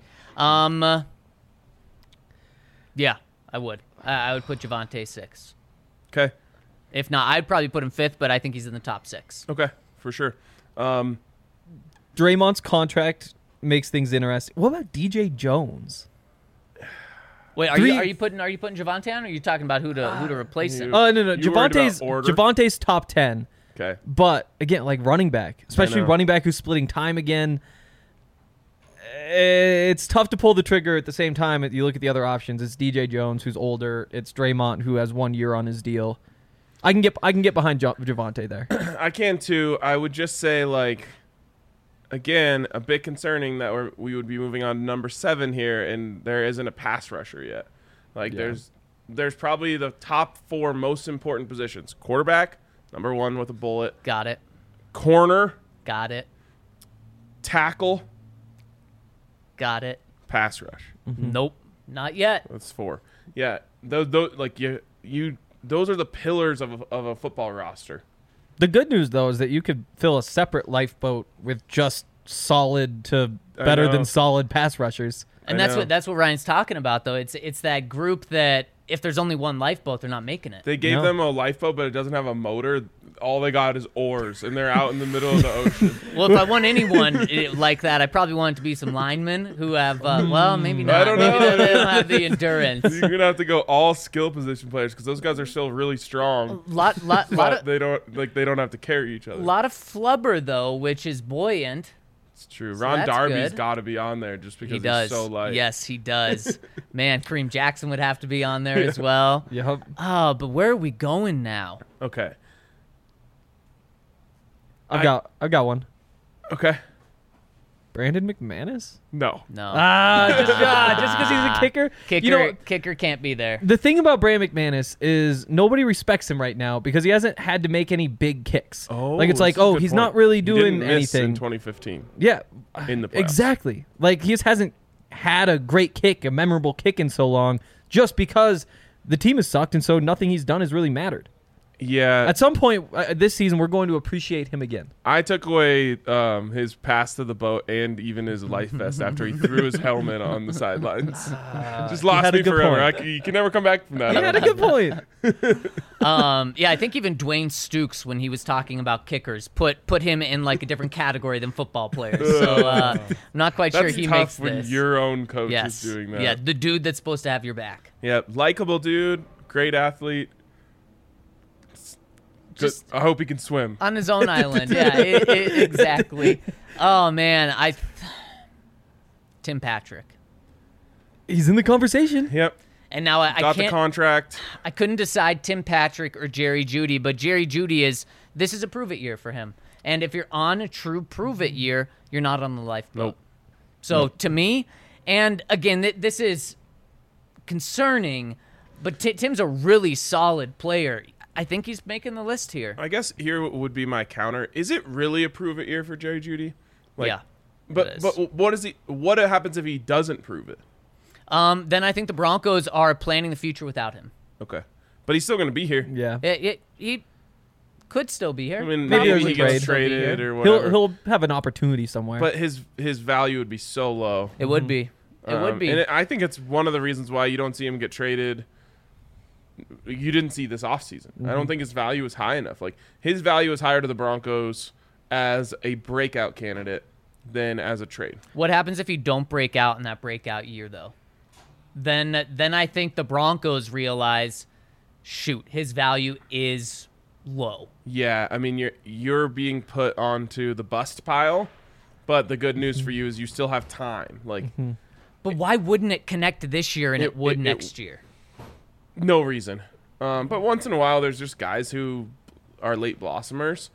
C: Yeah, I would. I would put Javante 6.
A: Okay.
C: If not, I'd probably put him 5th, but I think he's in the top 6.
A: Okay, for sure.
B: Draymond's contract makes things interesting. What about DJ Jones?
C: Wait, are
B: Three-
C: you putting Javante on, or are you talking about who to replace him?
B: Oh, no.
A: You worried about
B: Javante's
A: order?
B: Javante's top 10.
A: Okay.
B: But again, like running back, especially
A: know.
B: running back who's splitting time again, it's tough to pull the trigger at the same time. You look at the other options. It's DJ Jones, who's older. It's Draymond, who has 1 year on his deal. I can get behind Javante there.
A: I can too. I would just say, like, again, a bit concerning that we would be moving on to number 7 here, and there isn't a pass rusher yet. Like,
B: Yeah.
A: there's probably the top 4 most important positions: quarterback, number 1 with a bullet;
C: Got it.
A: corner,
C: Got it.
A: tackle,
C: Got it.
A: pass rush.
C: Nope. Not yet.
A: That's 4. Yeah, those like you those are the pillars of a football roster.
B: The good news, though, is that you could fill a separate lifeboat with just solid to better
A: know.
B: than solid pass rushers.
C: And
A: I
C: that's
A: know.
C: what Ryan's talking about, though. It's that group that if there's only one lifeboat, they're not making it.
A: They gave
B: No.
A: them a lifeboat, but it doesn't have a motor. All they got is oars, and they're out in the middle of the ocean.
C: Well, if I want anyone like that, I probably want it to be some linemen who have, well, maybe not.
A: I don't
C: Maybe
A: know.
C: they don't have the endurance.
A: You're gonna have to go all skill position players because those guys are still really strong.
C: lot
A: But
C: of
A: they don't have to carry each other.
C: flubber though, which is buoyant.
A: It's true.
C: So
A: Ron
C: that's
A: Darby's
C: good.
A: got to be on there just because
C: He
A: he's
C: does.
A: so light.
C: Yes, he does. Man, Kareem Jackson would have to be on there as well.
B: Yep.
C: Oh, but where are we going now?
A: Okay.
B: I've got one.
A: Okay.
B: Brandon McManus?
A: No.
C: No.
B: Just because he's a kicker.
C: Kicker,
B: You know,
C: kicker can't be there.
B: the thing about Brandon McManus is nobody respects him right now because he hasn't had to make any big kicks.
A: Oh,
B: like it's like,
A: that's a
B: oh,
A: good
B: he's
A: point.
B: not really
A: He
B: doing
A: didn't miss
B: anything.
A: in 2015
B: Yeah,
A: in the playoffs.
B: exactly. Like he just hasn't had a great kick, a memorable kick in so long, just because the team has sucked, and so nothing he's done has really mattered.
A: Yeah.
B: At some point this season, we're going to appreciate him again.
A: I took away his pass to the boat and even his life vest after he threw his helmet on the sidelines. Just lost
B: had a
A: me
B: good
A: forever.
B: point.
A: You can never come back from that.
B: He had a good point.
C: Yeah, I think even Dwayne Stukes, when he was talking about kickers, put him in like a different category than football players. So I'm not quite sure
A: That's
C: he
A: tough
C: makes
A: when
C: this.
A: your own coach
C: Yes.
A: is doing that.
C: Yeah, the dude that's supposed to have your back.
A: Yeah, likable dude, great athlete.
C: Just-
A: I hope he can swim.
C: On his own island. Yeah, exactly. Oh, man. Tim Patrick.
B: He's in the conversation.
A: Yep.
C: And now I
A: Got the
C: can't.
A: contract.
C: I couldn't decide Tim Patrick or Jerry Jeudy, but Jerry Jeudy this is a prove it year for him. And if you're on a true prove it year, you're not on the lifeboat.
A: Nope.
C: So to me, and again, this is concerning, but Tim's a really solid player. I think he's making the list here.
A: I guess here would be my counter. Is it really a prove it year for Jerry Jeudy?
C: Yeah.
A: But what happens if he doesn't prove it?
C: Then I think the Broncos are planning the future without him.
A: Okay. But he's still going to be here.
B: Yeah.
C: He could still be here.
A: I mean,
B: Maybe
A: maybe
B: there's
A: he
B: a
A: gets
B: trade.
A: traded or whatever.
B: He'll have an opportunity somewhere.
A: But his value would be so low.
C: It would be. It would be.
A: And I think it's one of the reasons why you don't see him get traded. You didn't see this offseason. I don't think his value is high enough. Like, his value is higher to the Broncos as a breakout candidate than as a trade.
C: What happens if you don't break out in that breakout year, though? Then I think the Broncos realize, shoot, his value is low.
A: Yeah, I mean, you're being put onto the bust pile, but the good news for you is you still have time. Like,
C: But why wouldn't it connect this year and it would next year?
A: no reason. But once in a while, there's just guys who are late blossomers.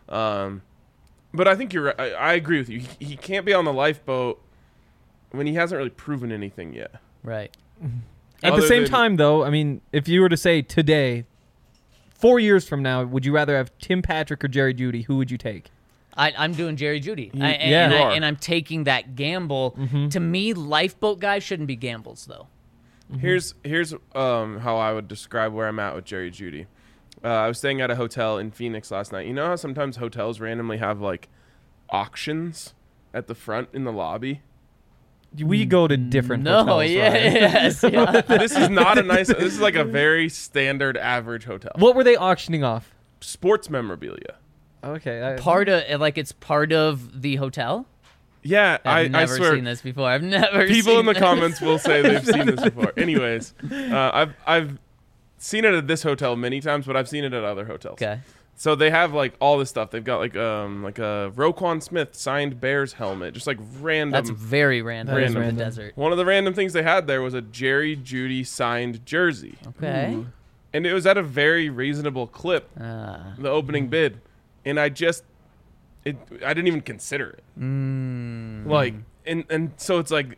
A: But I think you're right. I agree with you. He can't be on the lifeboat when he hasn't really proven anything yet.
C: Right.
B: At the
A: Other
B: same
A: than-
B: time, though, I mean, if you were to say today, 4 years from now, would you rather have Tim Patrick or Jerry Jeudy? Who would you take?
C: I'm doing Jerry Jeudy.
A: You are.
C: And I'm taking that gamble. To me, lifeboat guys shouldn't be gambles, though.
A: Here's how I would describe where I'm at with Jerry Jeudy. I was staying at a hotel in Phoenix last night. You know how sometimes hotels randomly have like auctions at the front in the lobby?
B: We go to different
C: No,
B: hotels.
C: yeah,
B: Ryan.
C: yes. Yeah.
A: This is not a nice. This is like a very standard average hotel.
B: What were they auctioning off?
A: Sports memorabilia.
B: Okay.
C: It's part of the hotel?
A: Yeah,
C: I've
A: I
C: never
A: swear.
C: seen this before. I've never
A: People
C: seen
A: in the
C: this.
A: comments will say they've seen this before. Anyways, I've seen it at this hotel many times, but I've seen it at other hotels.
C: Okay.
A: So they have like all this stuff. They've got like a Roquan Smith signed Bears helmet, just like random.
C: That's very random.
B: That is
C: For the
B: random.
C: desert.
A: One of the random things they had there was a Jerry Jeudy signed jersey,
C: Okay.
A: and it was at a very reasonable clip.
C: Ah.
A: The opening bid, and I didn't even consider it. Like, and so it's like,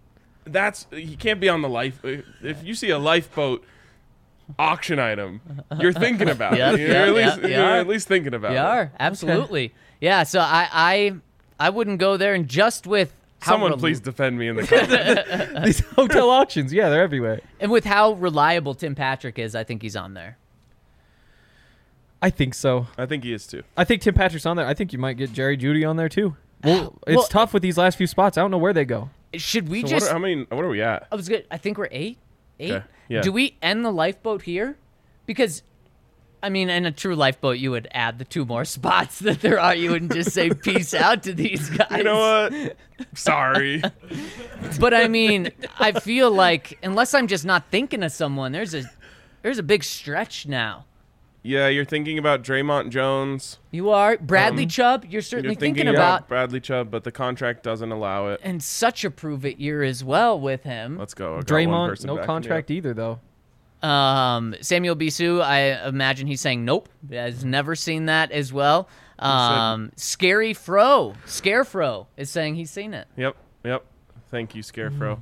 A: you can't be on the life. If you see a lifeboat auction item, you're thinking about
C: Yep,
A: it. You're
C: yep,
A: you're
C: yep.
A: at least thinking about
C: You
A: it.
C: are. Absolutely. Yeah, so I wouldn't go there, and just with how
A: Someone please defend me in the comments.
B: These hotel auctions, yeah, they're everywhere.
C: And with how reliable Tim Patrick is, I think he's on there.
B: I think so.
A: I think he is too.
B: I think Tim Patrick's on there. I think you might get Jerry Jeudy on there too. Well, it's
C: Well-
B: tough with these last few spots. I don't know where they go.
C: Should we
A: So
C: just?
A: what are we at?
C: I was good. I think we're eight.
A: Okay, yeah.
C: Do we end the lifeboat here? Because, I mean, in a true lifeboat, you would add the 2 more spots that there are. You wouldn't just say peace out to these guys.
A: You know what? Sorry.
C: But I mean, I feel like unless I'm just not thinking of someone, there's a big stretch now.
A: Yeah, you're thinking about Draymond Jones.
C: You are Bradley Chubb. You're certainly
A: You're thinking
C: about,
A: Bradley Chubb, but the contract doesn't allow it.
C: and such a prove it year as well with him.
A: Let's go. I got one
B: Draymond,
A: person
B: no
A: backing me
B: contract
A: up.
B: either though.
C: Samuel Bisu, I imagine he's saying nope. Has never seen that as well. Scary Fro, Scarefro is saying he's seen it.
A: Yep. Thank you, Scarefro.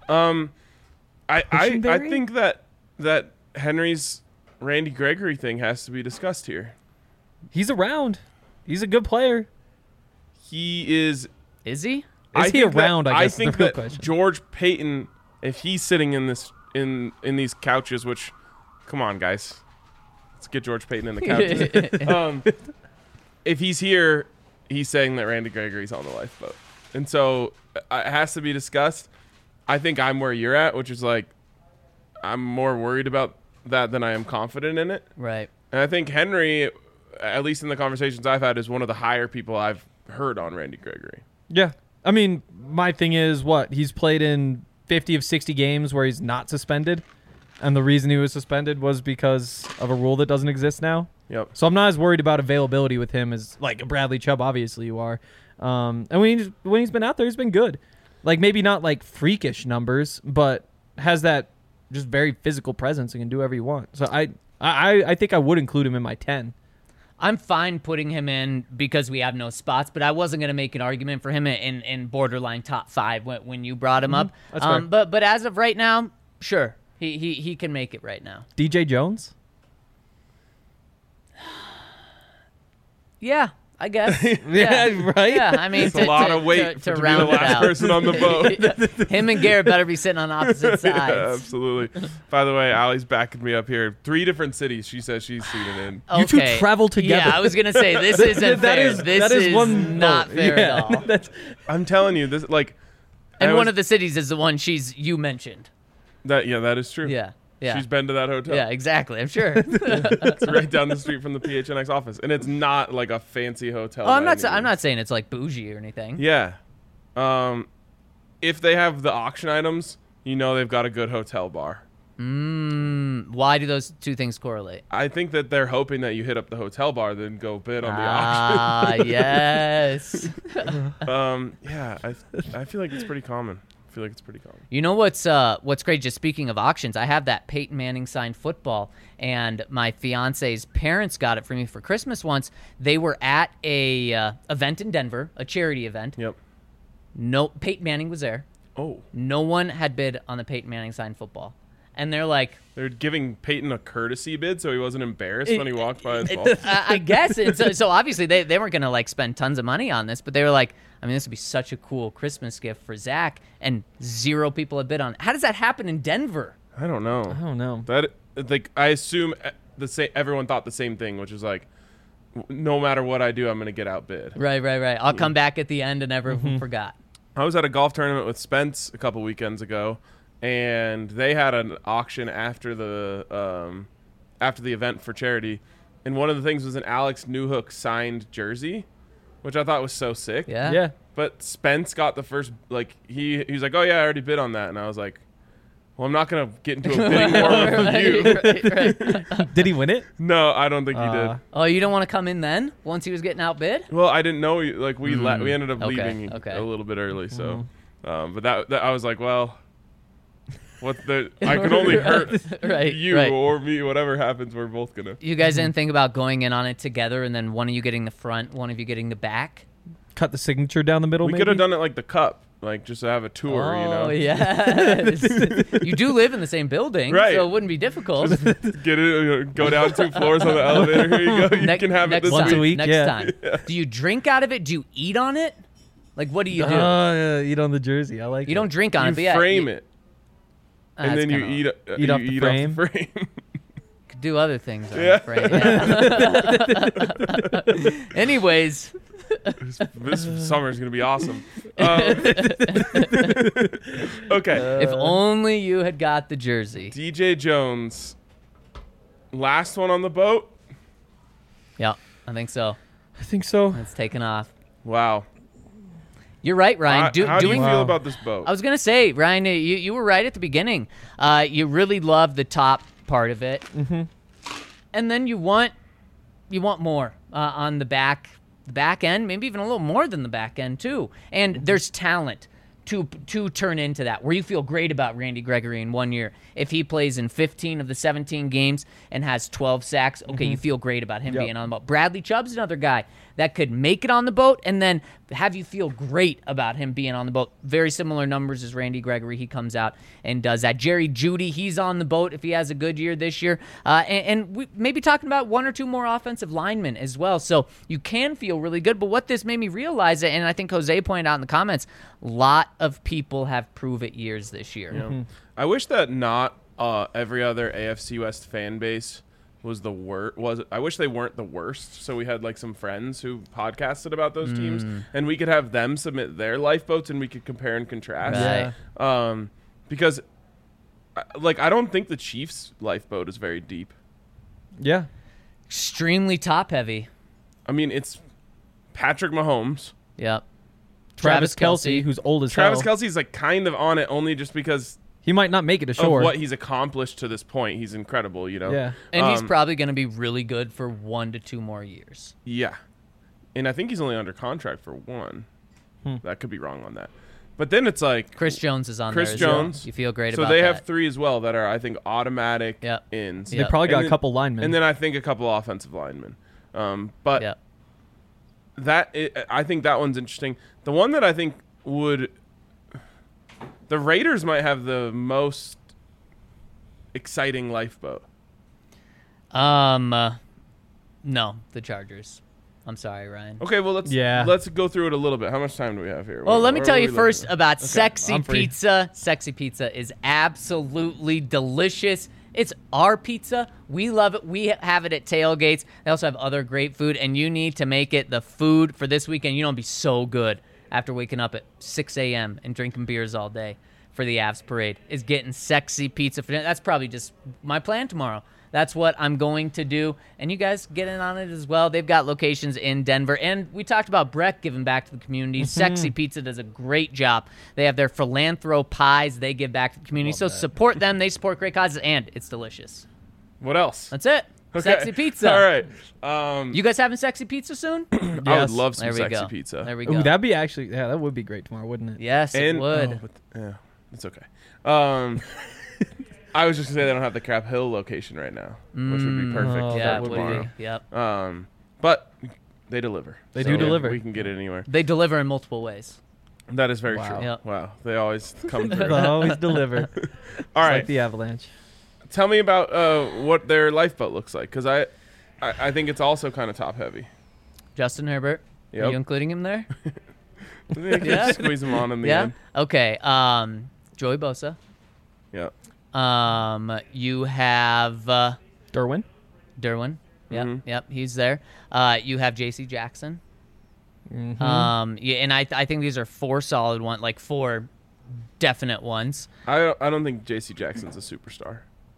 A: I
B: Cushenberry?
A: think that Henry's Randy Gregory thing has to be discussed here.
B: He's around. He's a good player.
A: He is.
C: Is he?
B: Is he around? I guess is
A: think
B: the real
A: that
B: question.
A: George Payton, if he's sitting in this in these couches, which, come on, guys, Let's get George Payton in the couch. If he's here, he's saying that Randy Gregory's on the lifeboat. And so it has to be discussed. I think I'm where you're at, which is like I'm more worried about that than I am confident in it.
C: Right.
A: And I think Henry, at least in the conversations I've had, is one of the higher people I've heard on Randy Gregory.
B: Yeah. I mean, my thing is he's played in 50 of 60 games where he's not suspended. And the reason he was suspended was because of a rule that doesn't exist now.
A: Yep.
B: So I'm not as worried about availability with him as like a Bradley Chubb. Obviously you are. And when he's been out there, he's been good. Like maybe not like freakish numbers, but has that just very physical presence and can do whatever you want. So I think I would include him in my 10.
C: I'm fine putting him in because we have no spots, but I wasn't going to make an argument for him in borderline top 5 when you brought him up.
B: That's fair.
C: But as of right now, sure, he can make it right now.
B: DJ Jones?
C: Yeah, I guess.
B: Yeah, right?
C: Yeah, I mean,
A: It's a lot of weight
C: to
A: to be
C: round
A: the
C: it
A: last
C: out.
A: person on the boat.
C: Him and Garrett better be sitting on opposite sides.
A: Yeah, absolutely. By the way, Allie's backing me up here. 3 different cities she says she's seen it in.
B: You two travel together.
C: Yeah, I was gonna say this isn't fair. This is
B: one
C: not
B: vote.
C: fair
B: Yeah,
C: at all.
A: I'm telling you, this like.
C: And one of the cities is the one you mentioned.
A: that. Yeah, that is true.
C: Yeah, yeah,
A: She's been to that hotel.
C: yeah, exactly. I'm sure.
A: It's right down the street from the PHNX office, and it's not like a fancy hotel.
C: Oh, I'm
A: by
C: not.
A: any
C: I'm
A: means.
C: not saying it's like bougie or anything.
A: Yeah. If they have the auction items, you know they've got a good hotel bar.
C: Why do those two things correlate?
A: I think that they're hoping that you hit up the hotel bar, then go bid on the auction.
C: Yes.
A: Yeah, I feel like it's pretty common.
C: You know what's great? Just speaking of auctions, I have that Peyton Manning signed football, and my fiance's parents got it for me for Christmas once. They were at a event in Denver, a charity event.
A: Yep.
C: No, Peyton Manning was there.
A: Oh,
C: No one had bid on the Peyton Manning signed football, and they're like,
A: they're giving Peyton a courtesy bid so he wasn't embarrassed when he walked by his ball.
C: I guess. And so obviously they weren't going to like spend tons of money on this, but they were like, I mean, this would be such a cool Christmas gift for Zach, and 0 people had bid on it. How does that happen in Denver?
A: I don't know. That like I assume everyone thought the same thing, which is like, no matter what I do, I'm gonna get outbid.
C: Right. I'll come back at the end and everyone forgot.
A: I was at a golf tournament with Spence a couple weekends ago, and they had an auction after the event for charity, and one of the things was an Alex Newhook signed jersey, which I thought was so sick.
C: Yeah.
A: But Spence got the first, like, he was like, oh yeah, I already bid on that, and I was like, well, I'm not gonna get into a bidding war with you.
C: Right.
B: Did he win it?
A: No, I don't think he did.
C: Oh, you don't want to come in then once he was getting outbid?
A: Well, I didn't know. Like we ended up
C: Okay,
A: leaving
C: okay.
A: a little bit early, so. But that I was like, well, I can only hurt
C: Right,
A: you
C: right.
A: or me. Whatever happens, we're both gonna.
C: You guys didn't think about going in on it together and then one of you getting the front, one of you getting the back?
B: Cut the signature down the middle,
A: We
B: maybe?
A: could have done it like the Cup, like just to have a tour. You know,
C: Oh, yes. You do live in the same building,
A: Right.
C: so it wouldn't be difficult.
A: get it, go down 2 floors on the elevator. Here you go. You can have it
C: next
A: this
C: time,
B: Once a week,
C: Next
B: yeah.
C: time. Do you drink out of it? Do you eat on it? Like, what do you do?
B: Yeah, eat on the jersey. I like
C: You
B: it.
C: don't drink on it, but
A: You
C: yeah,
A: frame it, and
C: that's
A: then you
C: kinda-
A: eat.
B: Eat off the
A: you
B: frame.
A: Off the frame.
C: Could do other things. On
A: Yeah.
C: the frame, yeah. Anyways,
A: This summer is gonna be awesome. Okay.
C: if only you had got the jersey.
A: DJ Jones, last one on the boat.
C: Yeah, I think so.
B: I think so.
C: It's taken off.
A: Wow.
C: You're right, Ryan.
A: How do you
C: doing.
A: feel
B: Wow.
A: about this boat?
C: I was gonna say, Ryan, you were right at the beginning. You really love the top part of it, and then you want more on the back end, maybe even a little more than the back end too. And there's talent to turn into that, where you feel great about Randy Gregory in 1 year. If he plays in 15 of the 17 games and has 12 sacks, okay, you feel great about him being on the boat. Bradley Chubb's another guy that could make it on the boat and then have you feel great about him being on the boat. Very similar numbers as Randy Gregory. He comes out and does that. Jerry Jeudy, he's on the boat if he has a good year this year. And we maybe talking about 1 or 2 more offensive linemen as well. So you can feel really good. But what this made me realize, and I think Jose pointed out in the comments, a lot of people have prove-it years this year.
A: I wish that not every other AFC West fan base was the worst. I wish they weren't the worst. So we had like some friends who podcasted about those teams, and we could have them submit their lifeboats, and we could compare and contrast.
C: Right.
A: Because, like, I don't think the Chiefs' lifeboat is very deep.
B: Yeah.
C: Extremely top heavy.
A: I mean, it's Patrick Mahomes.
C: Yep.
B: Travis Kelce, who's old as
A: Travis
B: hell.
A: Kelce's like kind of on it only just because
B: He might not make it
A: of
B: ashore.
A: what he's accomplished to this point. He's incredible, you know.
B: Yeah.
C: And he's probably going to be really good for 1 to 2 more years.
A: Yeah. And I think he's only under contract for 1. That could be wrong on that. But then it's like
C: Chris Jones is on
A: Chris
C: there as
A: Jones.
C: well. You feel great
A: so
C: about
A: they
C: that.
A: have 3 as well that are, I think, automatic
C: Yep.
A: ins.
C: Yep.
B: They probably got
A: And
B: a couple linemen.
A: And then I think a couple offensive linemen. But
C: Yep.
A: I think that one's interesting. The one that I think would, the Raiders might have the most exciting lifeboat.
C: No, the Chargers. I'm sorry, Ryan.
A: Okay, well let's go through it a little bit. How much time do we have here?
C: Well, let me
A: Where
C: tell
A: are
C: you
A: we
C: first
A: looking at?
C: about Sexy
B: I'm free.
C: Pizza. Sexy Pizza is absolutely delicious. It's our pizza. We love it. We have it at tailgates. They also have other great food, and you need to make it the food for this weekend. You know, it'll be so good after waking up at 6 a.m. and drinking beers all day for the Avs parade, is getting Sexy Pizza for dinner. That's probably just my plan tomorrow. That's what I'm going to do. And you guys get in on it as well. They've got locations in Denver. And we talked about Breck giving back to the community. Sexy Pizza does a great job. They have their philanthro pies. They give back to the community. So support them. They support great causes. And it's delicious.
A: What else?
C: That's it.
A: Okay.
C: Sexy Pizza.
A: All right.
C: You guys having Sexy Pizza soon?
A: I would
B: Yes.
A: love some
C: There we
A: sexy
C: go.
A: pizza.
C: There we go.
B: Ooh, that'd be actually, yeah, that would be great tomorrow, wouldn't it?
C: Yes, it would.
A: Yeah, it's okay. I was just gonna say they don't have the Crab Hill location right now, which would be perfect.
B: Oh,
A: for
C: Yeah,
B: that
C: it
B: would
C: would
A: tomorrow.
C: be. Yep.
A: But they deliver.
B: They do deliver.
A: We can get it anywhere.
C: They deliver in multiple ways.
A: That is very
B: Wow.
A: true.
C: Yep.
A: Wow, they always come through.
B: They'll always deliver.
A: All right,
B: Like the Avalanche.
A: tell me about what their lifeboat looks like, because I think it's also kind of top heavy.
C: Justin Herbert.
A: Yep.
C: Are you including him there?
A: They can
C: Yeah.
A: squeeze them on in the
C: Yeah.
A: end.
C: Okay. Joey Bosa.
A: Yeah.
C: You have
B: Derwin.
C: Derwin. Yep.
A: Mhm.
C: Yep. He's there. You have J.C. Jackson.
B: Mm-hmm.
C: Yeah, and I think these are 4 solid ones, like 4 definite ones.
A: I don't think J.C. Jackson's a superstar.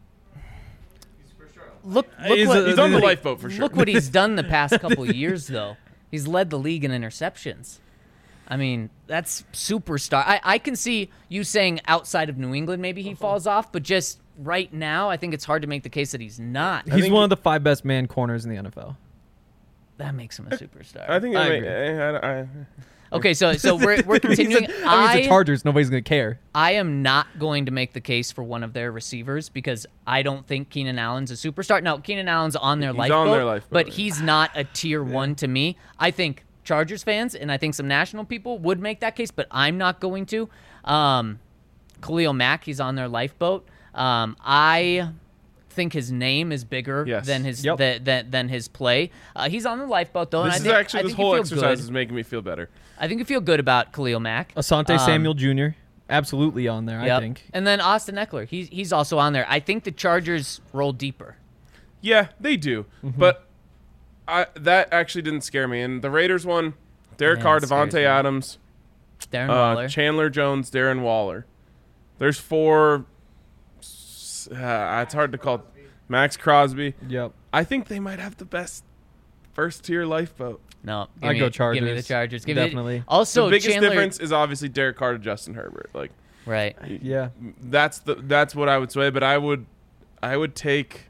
C: Look
B: He's
C: what,
A: He's on the lifeboat for sure.
C: Look what he's done the past couple years, though. He's led the league in interceptions. I mean, that's superstar. I can see you saying outside of New England maybe he falls off, but just right now, I think it's hard to make the case that he's not.
B: He's
A: think
B: one of the 5 best man corners in the NFL.
C: That makes him a superstar.
A: I think
B: I
A: it
B: agree.
C: Okay, so we're continuing.
B: He's the Chargers. Nobody's going to care.
C: I am not going to make the case for one of their receivers because I don't think Keenan Allen's a superstar. No, Keenan Allen's on their
A: He's
C: lifeboat,
A: on their lifeboat,
C: but
A: yeah.
C: he's not a tier 1 to me. I think Chargers fans and I think some national people would make that case, but I'm not going to. Khalil Mack, he's on their lifeboat. I think his name is bigger
A: Yes.
C: than his
B: Yep.
C: than his play. He's on the lifeboat though,
A: This
C: and
A: is
C: I think,
A: actually
C: I
A: this
C: think you
A: whole
C: feel
A: exercise
C: good.
A: is making me feel better.
C: I think you feel good about Khalil Mack.
B: Asante Samuel Jr. Absolutely on there, I
C: Yep.
B: think.
C: And then Austin Eckler, he's also on there. I think the Chargers roll deeper.
A: Yeah, they do. But that actually didn't scare me. And the Raiders one, Derek
C: Man,
A: Carr,
C: it scares
A: Devontae
C: me.
A: Adams,
C: Darren Waller.
A: Chandler Jones, Darren Waller. There's 4. It's hard to call. Max Crosby.
B: Yep.
A: I think they might have the best first tier lifeboat.
C: No,
B: I'd go
C: Give me the
B: Chargers.
C: Chargers.
B: Definitely.
C: Also,
A: the biggest
C: Chandler,
A: difference is obviously Derek Carr to Justin Herbert. Like,
C: right?
B: Yeah.
A: that's what I would say. But I would take.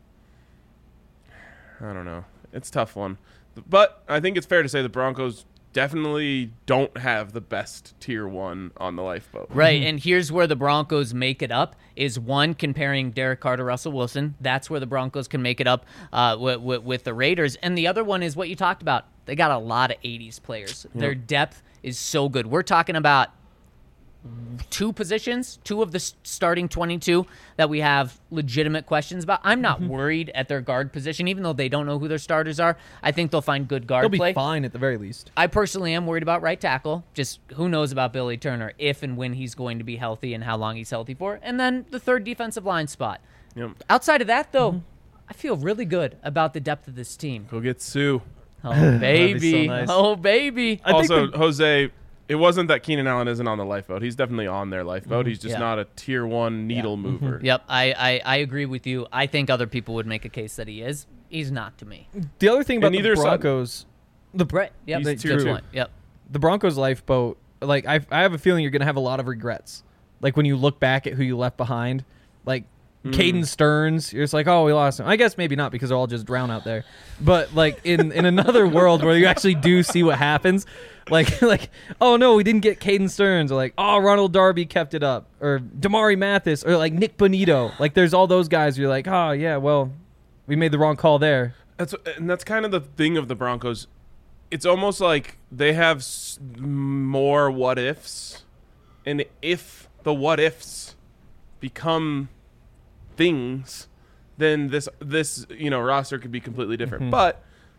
A: I don't know. It's a tough one, but I think it's fair to say the Broncos definitely don't have the best tier 1 on the lifeboat.
C: Right, and here's where the Broncos make it up: is one comparing Derek Carr to Russell Wilson. That's where the Broncos can make it up with the Raiders, and the other one is what you talked about. They got a lot of '80s players. Their depth is so good. We're talking about 2 positions, 2 of the starting 22 that we have legitimate questions about. I'm not worried at their guard position, even though they don't know who their starters are. I think they'll find good guard
B: They'll be
C: play.
B: fine at the very least.
C: I personally am worried about right tackle. Just who knows about Billy Turner, if and when he's going to be healthy and how long he's healthy for. And then the 3rd defensive line spot.
A: Yep.
C: Outside of that, though, I feel really good about the depth of this team.
A: Go get Sue.
C: Oh, baby.
B: so nice.
C: Oh, baby.
A: Also, Jose, it wasn't that Keenan Allen isn't on the lifeboat. He's definitely on their lifeboat. He's just
C: Yeah.
A: not a tier 1 needle mover.
C: Yep, I agree with you. I think other people would make a case that he is. He's not to me.
B: The other thing about
A: And
B: the
A: neither side-
B: Broncos,
C: Right. Yep.
A: He's
C: Good
A: tier two.
C: point. Yep.
B: the Broncos lifeboat, like I have a feeling you're gonna have a lot of regrets. Like when you look back at who you left behind, like Caden Stearns, you're just like, oh, we lost him. I guess maybe not because they're all just drown out there. But like in another world where you actually do see what happens, like oh no, we didn't get Caden Stearns, or like oh Ronald Darby kept it up, or Damari Mathis, or like Nick Bonito. Like there's all those guys. You're like, oh yeah, well, we made the wrong call there.
A: That's kind of the thing of the Broncos. It's almost like they have more what ifs, and if the what ifs become things, then this roster could be completely different. But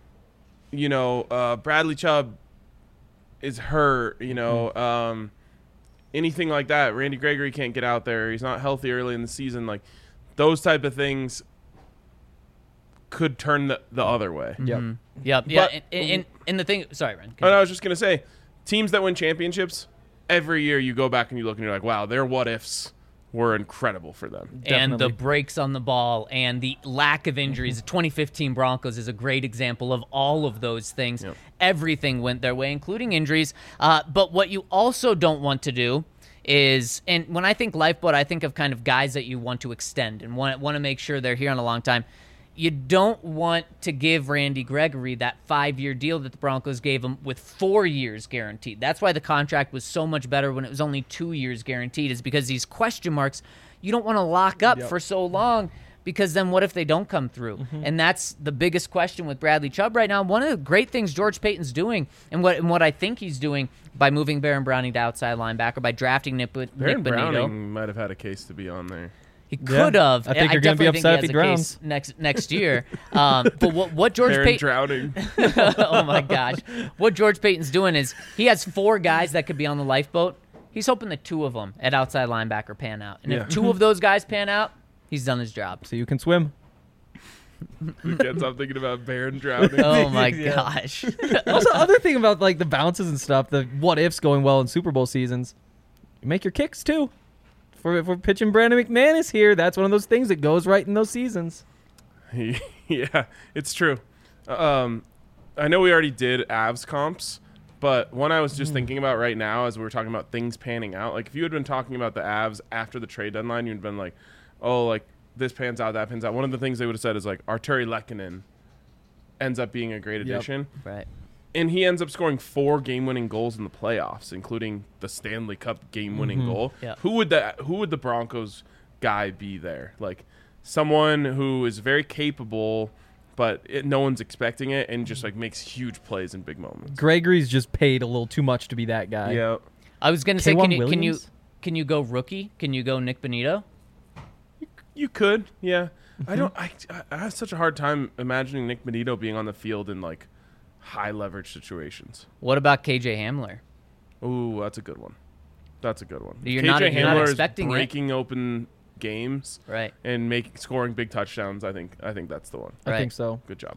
A: Bradley Chubb is hurt. Anything like that. Randy Gregory can't get out there. He's not healthy early in the season. Like those type of things could turn the other way.
B: Yep.
C: Yep. Yeah. And the thing. Sorry, Ren.
A: And I was just gonna say, teams that win championships every year, you go back and you look and you're like, wow, their what ifs were incredible for them.
C: And the
B: Definitely.
C: breaks on the ball and the lack of injuries. The 2015 Broncos is a great example of all of those things.
A: Yep.
C: Everything went their way, including injuries. But what you also don't want to do is, and when I think lifeboat, I think of kind of guys that you want to extend and want to make sure they're here on a long time. You don't want to give Randy Gregory that 5-year deal that the Broncos gave him with 4 years guaranteed. That's why the contract was so much better when it was only 2 years guaranteed, is because these question marks you don't want to lock up for so long, because then what if they don't come through? And that's the biggest question with Bradley Chubb right now. One of the great things George Payton's doing, and what I think he's doing by moving Baron Browning to outside linebacker, by drafting Nick
A: Baron
C: Bonito.
A: Browning might have had a case to be on there.
C: He could have.
B: I think you're going to be upset if he drowns.
C: Next year. But what George
A: Baron
C: Payton...
A: drowning.
C: Oh, my gosh. What George Payton's doing is he has 4 guys that could be on the lifeboat. He's hoping that 2 of them at outside linebacker pan out. And if 2 of those guys pan out, he's done his job.
B: So you can swim.
A: Again, I'm thinking about Baron drowning.
C: Oh, my
B: Yeah.
C: gosh.
B: Also, other thing about like the bounces and stuff, the what ifs going well in Super Bowl seasons, you make your kicks too. If we're pitching Brandon McManus here, that's one of those things that goes right in those seasons.
A: Yeah, it's true. I know we already did Avs comps, but one I was just thinking about right now as we were talking about things panning out, like if you had been talking about the Avs after the trade deadline, you'd been like, oh, like this pans out, that pans out. One of the things they would have said is like Arturi Lehkonen ends up being a great addition.
C: Right.
A: And he ends up scoring 4 game-winning goals in the playoffs, including the Stanley Cup game-winning goal.
C: Yeah.
A: Who would the Broncos guy be there? Like someone who is very capable, but no one's expecting it, and just like makes huge plays in big moments.
B: Gregory's just paid a little too much to be that guy.
A: Yeah.
C: I was going to say,
B: K'Wan
C: can you
B: Williams?
C: can you go rookie? Can you go Nick Bonito?
A: You could, yeah. I have such a hard time imagining Nick Bonito being on the field in like high leverage situations.
C: What about KJ Hamler?
A: Ooh, that's a good one.
C: You're
A: KJ
C: not
A: Hamler
C: expecting
A: is
C: it.
A: breaking open games
C: Right.
A: and scoring big touchdowns. I think that's the one.
B: I
C: Right.
B: think so.
A: Good job.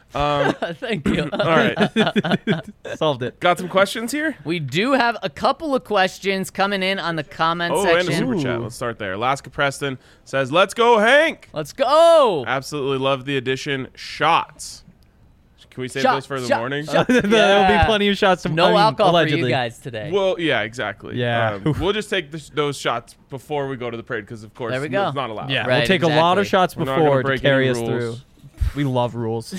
C: Thank you.
A: All right,
B: Solved it.
A: got some questions here.
C: We do have a couple of questions coming in on the comment
A: Oh, and a
C: section.
A: super chat. Let's start there. Alaska Preston says, "Let's go, Hank."
C: Let's go.
A: Absolutely love the addition. Shots. Can we save
C: Shot,
A: those for the
C: shot,
A: morning?
C: shot.
B: There will
C: Yeah.
B: be plenty of shots.
C: No alcohol
B: allegedly.
C: for you guys today.
A: Well, yeah, exactly.
B: Yeah.
A: We'll just take those shots before we go to the parade because, of course,
C: There we go.
A: it's not allowed.
B: Yeah,
C: Right,
B: we'll take a lot of
C: exactly.
B: shots
A: We're not gonna
B: before to
A: break
B: carry
A: any
B: us through.
A: rules.
B: We love rules.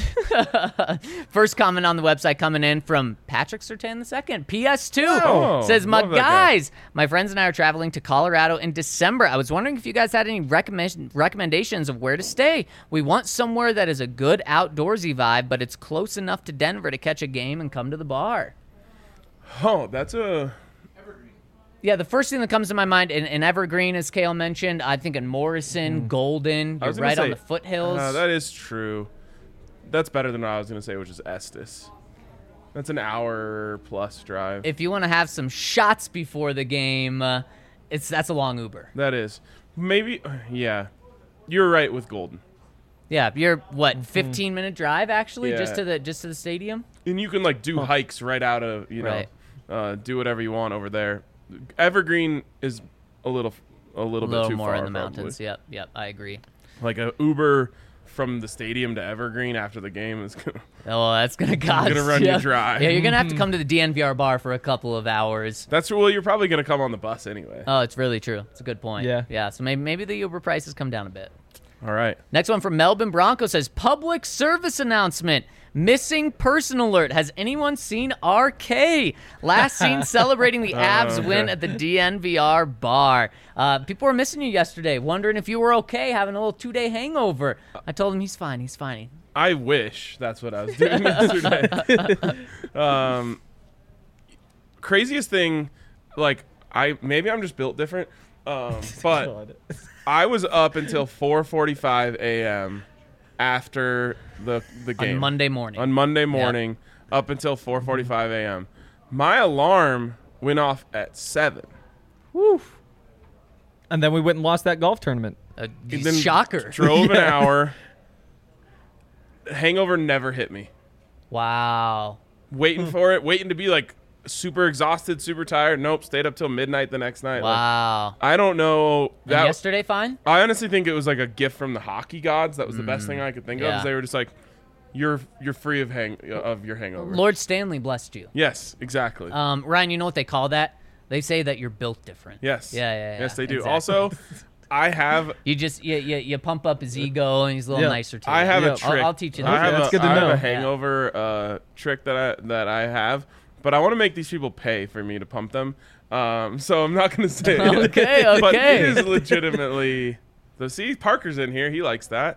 C: First comment on the website coming in from Patrick Sertan II. PS2
A: Oh,
C: says, my
A: love that guy.
C: guys, my friends and I are traveling to Colorado in December. I was wondering if you guys had any recommendations of where to stay. We want somewhere that is a good outdoorsy vibe, but it's close enough to Denver to catch a game and come to the bar.
A: Oh, that's a.
C: Yeah, the first thing that comes to my mind in Evergreen, as Kale mentioned, I think in Morrison, Golden,
A: I
C: you're
A: was gonna
C: right on
A: say,
C: the foothills.
A: That is true. That's better than what I was going to say, which is Estes. That's an hour plus drive.
C: If you want to have some shots before the game, that's a long Uber.
A: That is. Maybe, yeah. You're right with Golden.
C: Yeah, you're what 15-minute drive actually
A: Yeah.
C: just to the stadium.
A: And you can like do hikes right out of do whatever you want over there. Evergreen is a little bit too
C: more
A: far
C: in the
A: probably.
C: mountains. Yep, I agree.
A: Like a Uber from the stadium to Evergreen after the game is gonna.
C: Oh, that's gonna cost.
A: Gonna run you dry.
C: Yeah, you're gonna have to come to the DNVR bar for a couple of hours.
A: You're probably gonna come on the bus anyway.
C: Oh, it's really true. It's a good point.
B: Yeah.
C: So maybe the Uber prices come down a bit.
A: All right.
C: Next one from Melbourne Bronco says public service announcement. Missing person alert. Has anyone seen RK? Last seen celebrating the Avs win at the DNVR bar. People were missing you yesterday, wondering if you were okay, having a little 2-day hangover. I told him he's fine. He's fine.
A: I wish that's what I was doing yesterday. Craziest thing, like maybe I'm just built different, but I was up until 4:45 a.m. after the game
C: On Monday morning.
A: On Monday morning, up until 4:45 a.m. My alarm went off at 7.
B: Woo. And then we went and lost that golf tournament.
A: Then
C: Shocker.
A: Drove an hour. Hangover never hit me.
C: Wow.
A: Waiting for it, waiting to be like super exhausted, super tired. Nope, stayed up till midnight the next night.
C: Wow.
A: Like, I don't know.
C: And yesterday fine?
A: I honestly think it was like a gift from the hockey gods. That was the best thing I could think of. Is they were just like, you're free of your hangover.
C: Lord Stanley blessed you.
A: Yes, exactly.
C: Ryan, you know what they call that? They say that you're built different.
A: Yes.
C: Yeah.
A: Yes, they do.
C: Exactly.
A: Also, I have.
C: You just you pump up his ego and he's a little nicer to you.
A: I have a trick.
C: I'll teach you
A: I
C: that.
A: have,
B: That's good to
A: I have
B: know.
A: a hangover trick that I have, but I want to make these people pay for me to pump them. So I'm not going to say it.
C: Okay.
A: But it is legitimately. So see, Parker's in here. He likes that.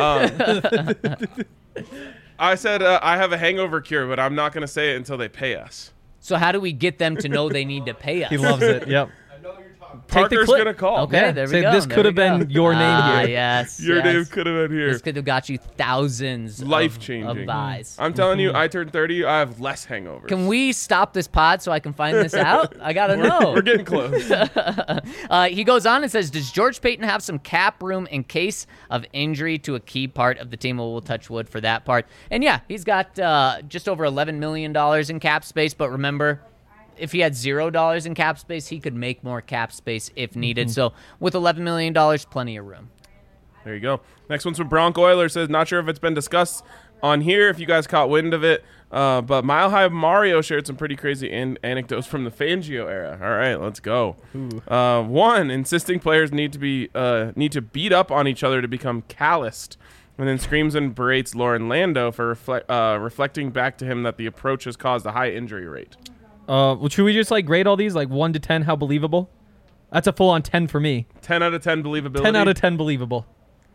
A: I said I have a hangover cure, but I'm not going to say it until they pay us.
C: So how do we get them to know they need to pay us?
B: He loves it. Yep.
A: Parker's
C: clip.
A: going to call.
C: Okay, there we
B: Say,
C: go.
B: this
C: there
B: could
C: we
B: have been
C: go.
B: your name here.
C: Yes.
A: Your
C: yes.
A: name could have been here.
C: This could have got you thousands
A: Life-changing.
C: of buys.
A: I'm telling you, I turned 30. I have less hangovers.
C: Can we stop this pod so I can find this out? I gotta know.
A: We're getting close.
C: He goes on and says, does George Payton have some cap room in case of injury to a key part of the team? We'll touch wood for that part. And yeah, he's got just over $11 million in cap space. But remember, if he had $0 in cap space, he could make more cap space if needed. So with $11 million, plenty of room.
A: There you go. Next one's from Bronco Oiler. Says, not sure if it's been discussed on here, if you guys caught wind of it, but Mile High Mario shared some pretty crazy anecdotes from the Fangio era. All right, let's go. One, insisting players need to beat up on each other to become calloused, and then screams and berates Lauren Lando for reflecting back to him that the approach has caused a high injury rate.
B: Well, should we just like grade all these like 1 to 10? How believable? That's a full on 10 for me.
A: 10 out of 10 believability.
B: 10 out of 10 believable.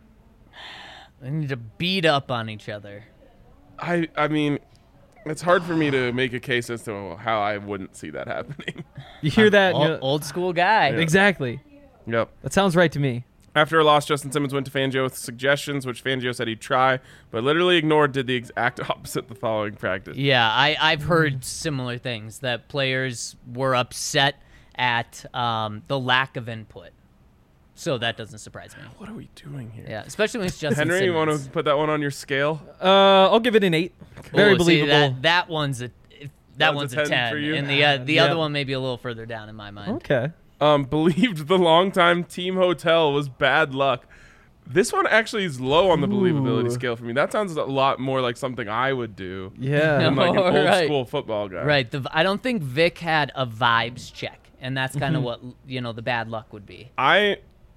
C: They need to beat up on each other.
A: I mean, it's hard for me to make a case as to how I wouldn't see that happening.
B: You hear that? and you're-
C: Old school guy.
B: Exactly.
A: Yep.
B: That sounds right to me.
A: After a loss, Justin Simmons went to Fangio with suggestions, which Fangio said he'd try, but literally ignored, did the exact opposite the following practice.
C: Yeah, I've heard similar things, that players were upset at the lack of input. So that doesn't surprise me.
A: What are we doing here?
C: Yeah, especially when it's Justin
A: Henry, you
C: Simmons.
A: want to put that one on your scale?
B: I'll give it an 8. Very
C: Ooh,
B: believable.
C: See, that one's a
A: One's a 10 for you?
C: and the
B: Yeah.
C: other one may be a little further down in my mind.
B: Okay.
A: Believed the longtime team hotel was bad luck. This one actually is low on the believability
B: Ooh.
A: scale for me. That sounds a lot more like something I would do
B: Yeah.
A: than like an old
C: Right.
A: school football guy.
C: Right. I don't think Vic had a vibes check, and that's kind of what the bad luck would be.
A: I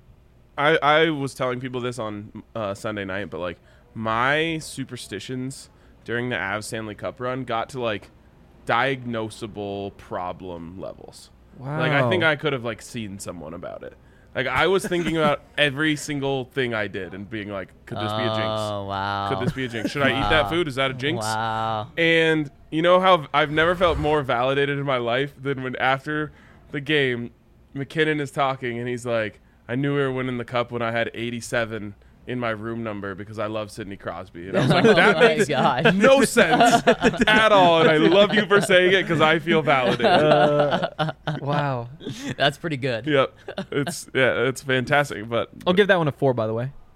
A: was telling people this on Sunday night, but like my superstitions during the Avs Stanley Cup run got to like diagnosable problem levels.
B: Wow.
A: Like I think I could have like seen someone about it. Like I was thinking about every single thing I did and being like, could this be a jinx?
C: Oh, wow.
A: Could this be a jinx? Should I eat that food? Is that a jinx?
C: Wow.
A: And you know how I've never felt more validated in my life than when after the game, McKinnon is talking and he's like, I knew we were winning the cup when I had 87 in my room number because I love Sidney Crosby. And I was like, that
C: Oh my
A: makes
C: God.
A: no sense at all. And I love you for saying it because I feel validated.
B: Wow.
C: That's pretty good.
A: Yep. It's fantastic. But
B: I'll give that one a 4, by the way.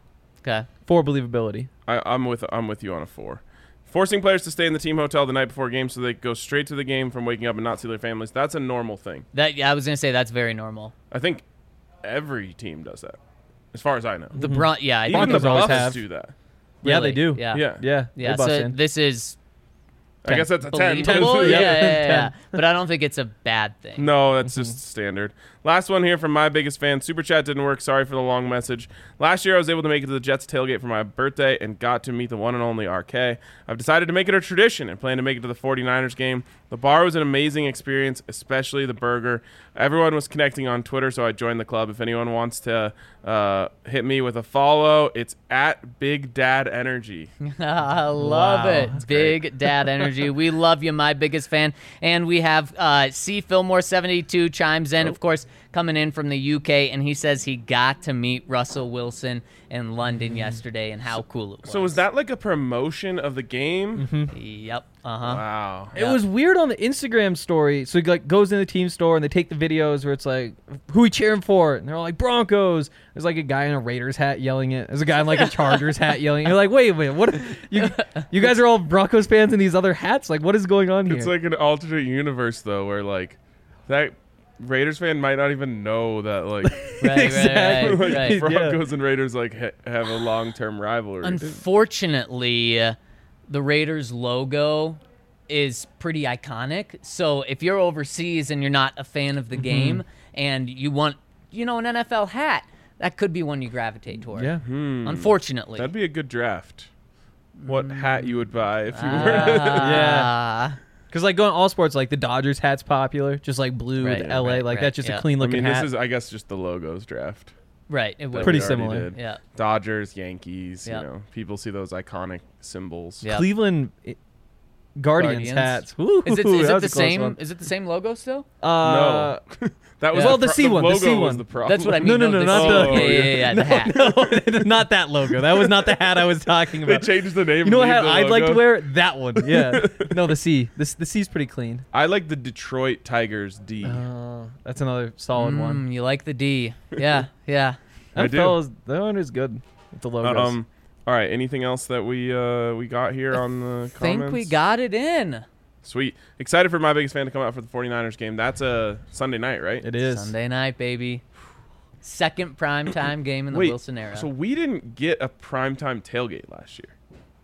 C: Okay.
B: 4 believability.
A: I'm with you on a 4. Forcing players to stay in the team hotel the night before games so they go straight to the game from waking up and not see their families. That's a normal thing.
C: I was gonna say that's very normal.
A: I think every team does that, as far as I know.
C: The Even the
B: Broncos always
A: Buffs
B: have.
A: do that.
B: Yeah,
C: Really?
B: they do.
C: Yeah.
A: Yeah.
B: They bust
C: So
B: in.
C: this is
A: I guess that's a 10.
C: believable.
B: Yeah.
C: Yeah.
B: 10.
C: But I don't think it's a bad thing.
A: No, that's just standard. Last one here from my biggest fan. Super chat didn't work. Sorry for the long message. Last year, I was able to make it to the Jets tailgate for my birthday and got to meet the one and only RK. I've decided to make it a tradition and plan to make it to the 49ers game. The bar was an amazing experience, especially the burger. Everyone was connecting on Twitter, so I joined the club. If anyone wants to hit me with a follow, it's at Big Dad Energy.
C: I love
B: Wow.
C: it. Big Dad Energy. We love you, my biggest fan. And we have C. Fillmore72 chimes in, of course, coming in from the UK, and he says he got to meet Russell Wilson in London yesterday and how cool it was.
A: So was that like a promotion of the game?
C: Yep.
A: Wow.
B: It was weird on the Instagram story. So he like goes in the team store and they take the videos where it's like, who we cheering for? And they're all like, Broncos. There's like a guy in a Raiders hat yelling it. There's a guy in like a Chargers hat yelling it. You're like, wait, what? You guys are all Broncos fans in these other hats? Like, what is going on here?
A: It's like an alternate universe, though, where like that Raiders fan might not even know that like
B: Exactly.
A: like,
C: right.
A: Broncos and Raiders like have a long-term rivalry.
C: Unfortunately, the Raiders logo is pretty iconic. So if you're overseas and you're not a fan of the game and you want, an NFL hat, that could be one you gravitate toward.
B: Yeah.
C: Unfortunately.
A: That'd be a good draft. What hat you would buy if you were?
B: Yeah. Because like going all sports, like the Dodgers hat's popular, just like blue with
C: Right,
B: LA,
C: right,
B: like
C: right,
B: that's just
C: yeah.
B: a clean
A: I
B: looking
A: mean,
B: hat.
A: this is, I guess, just the logos draft.
C: Right. It
A: that
C: would.
B: Pretty
A: we already
B: similar.
A: did.
C: Yeah.
A: Dodgers, Yankees.
C: Yeah.
A: People see those iconic symbols.
C: Yeah.
B: Cleveland Guardians hats. Woo,
C: Is it
B: that was
C: the
B: a close
C: same?
B: one.
C: Is it the same logo still?
A: No, that was
B: Well, the C one, the
A: logo
B: C
A: was
B: one.
A: the problem.
C: That's what I mean.
B: No, not
A: the-
C: Yeah, the hat.
B: No, not that logo. That was not the hat I was talking
A: They
B: about.
A: changed the name.
B: You know what
A: leave
B: hat
A: the
B: I'd like to
A: logo.
B: wear? That one. Yeah. No, the C. The C's pretty clean.
A: I like the Detroit Tigers D.
B: That's another solid one.
C: You like the D? Yeah, yeah.
A: I do.
B: That one is good with the logos.
A: All right. Anything else that we got here on the comments?
C: Think we got it in.
A: Sweet. Excited for my biggest fan to come out for the 49ers game. That's a Sunday night, right?
B: It is.
C: Sunday night, baby. Second primetime game in the
A: Wait,
C: Wilson era.
A: So we didn't get a primetime tailgate last year.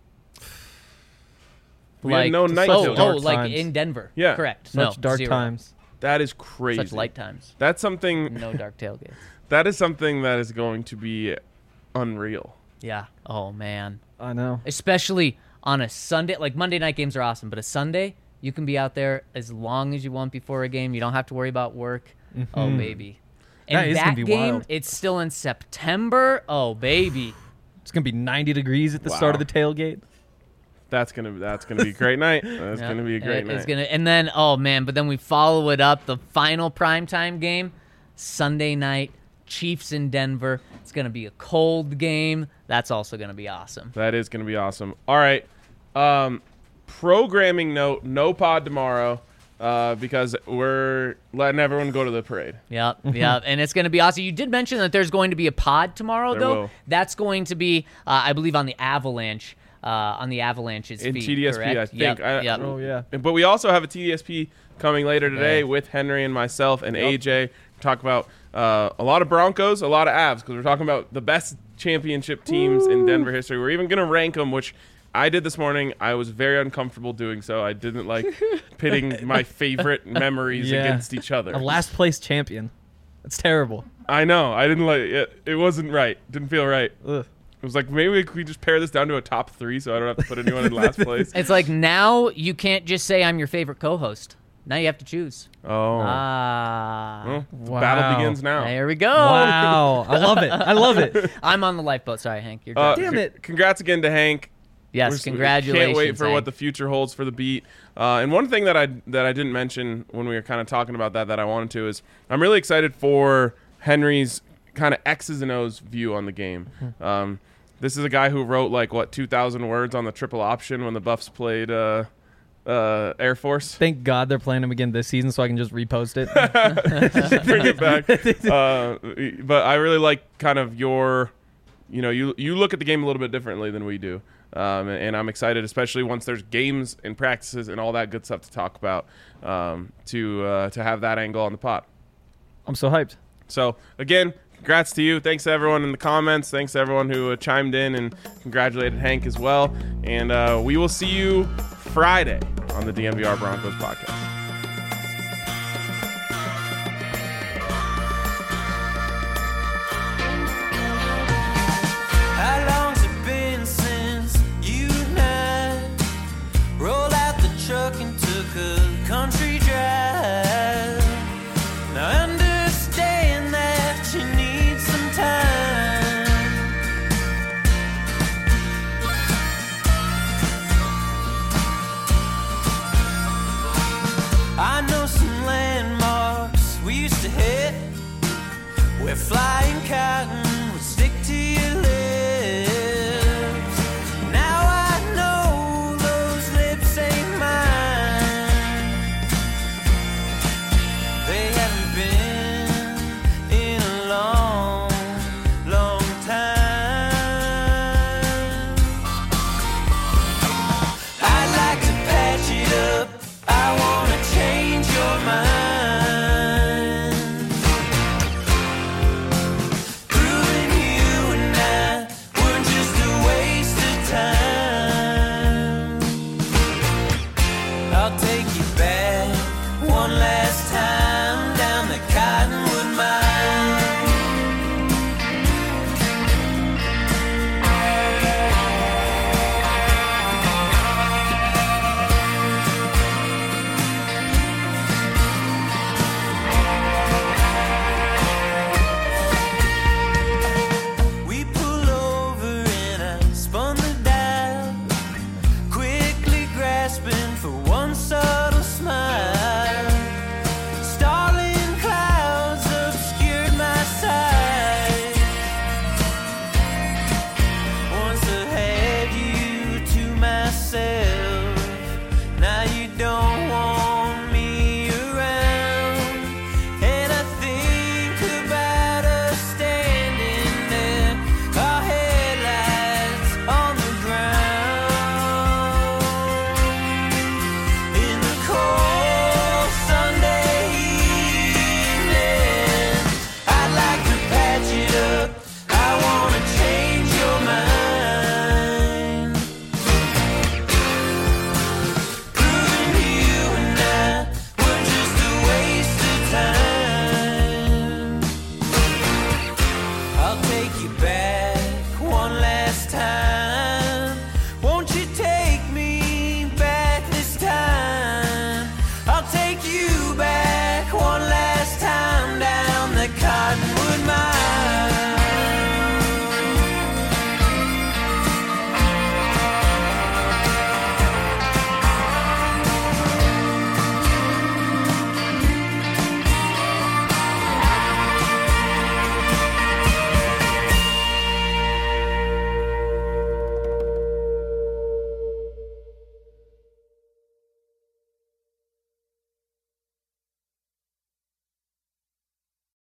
A: We had no night
C: oh,
A: tailgate.
B: Dark
C: like
B: times.
C: in Denver.
A: Yeah.
C: Correct.
B: Such
C: no,
B: dark
C: 0.
B: times.
A: That is crazy.
C: Such light times.
A: That's something.
C: No dark tailgates.
A: That is something that is going to be unreal.
C: Yeah. Oh, man.
B: I know.
C: Especially on a Sunday. Like, Monday night games are awesome, but a Sunday, you can be out there as long as you want before a game. You don't have to worry about work. Oh, baby.
B: That
C: And
B: is
C: that
B: gonna be
C: game,
B: wild.
C: it's still in September. Oh, baby.
B: It's gonna be 90 degrees at the start of the tailgate.
A: That's gonna be a great night. That's
C: Yeah,
A: gonna be a great night.
C: It's gonna, and then, oh, man, but then we follow it up. The final primetime game, Sunday night, Chiefs in Denver. It's going to be a cold game. That's also going to be awesome.
A: That is gonna be awesome. All right. Programming note: no pod tomorrow because we're letting everyone go to the parade.
C: Yep, yep. And it's going to be awesome. You did mention that there's going to be a pod tomorrow,
A: There
C: though.
A: will.
C: That's going to be, I believe, on the Avalanche. On the Avalanche's
A: In
C: feed,
A: TDSP,
C: correct?
A: I think.
C: Yep,
A: I-
C: yep.
B: Oh yeah.
A: But we also have a TDSP coming later today
C: Okay.
A: with Henry and myself and AJ. Talk about a lot of Broncos, a lot of Avs, because we're talking about the best championship teams in Denver history. We're even going to rank them, which I did this morning. I was very uncomfortable doing so. I didn't like pitting my favorite memories
B: Yeah.
A: against each other.
B: A last place champion. That's terrible.
A: I know. I didn't like it. It wasn't right. Didn't feel right.
B: Ugh.
A: It was like, maybe we just pare this down to a top 3 so I don't have to put anyone in last place.
C: It's like now you can't just say I'm your favorite co-host. Now you have to choose.
A: Oh.
C: Ah.
A: Well, the
B: Wow.
A: battle begins now.
C: There we go.
B: Wow. I love it. I love it.
C: I'm on the lifeboat. Sorry, Hank. You're driving.
B: Damn it.
A: Congrats again to Hank.
C: Yes,
A: We
C: congratulations.
A: Can't wait for
C: Hank.
A: what the future holds for the beat. And one thing that I didn't mention when we were kind of talking about that I wanted to is I'm really excited for Henry's kind of X's and O's view on the game. This is a guy who wrote 2,000 words on the triple option when the Buffs played Air Force.
B: Thank God they're playing him again this season so I can just repost it.
A: Bring it back. But I really like kind of your you look at the game a little bit differently than we do. And I'm excited, especially once there's games and practices and all that good stuff to talk about, to have that angle on the pod.
B: I'm so hyped.
A: So, again, congrats to you. Thanks to everyone in the comments. Thanks to everyone who chimed in and congratulated Hank as well. And we will see you Friday on the DNVR Broncos podcast.
E: How long's it been since you and I rolled out the truck and took a country drive? Now understand that you need some time. I know some landmarks we used to hit where flying cotton would stick to your lips. Now I know those lips ain't mine. They haven't been in a long, long time. I'd like to patch it up. I wanna change your mind. Proving you and I were just a waste of time. I'll take you back one last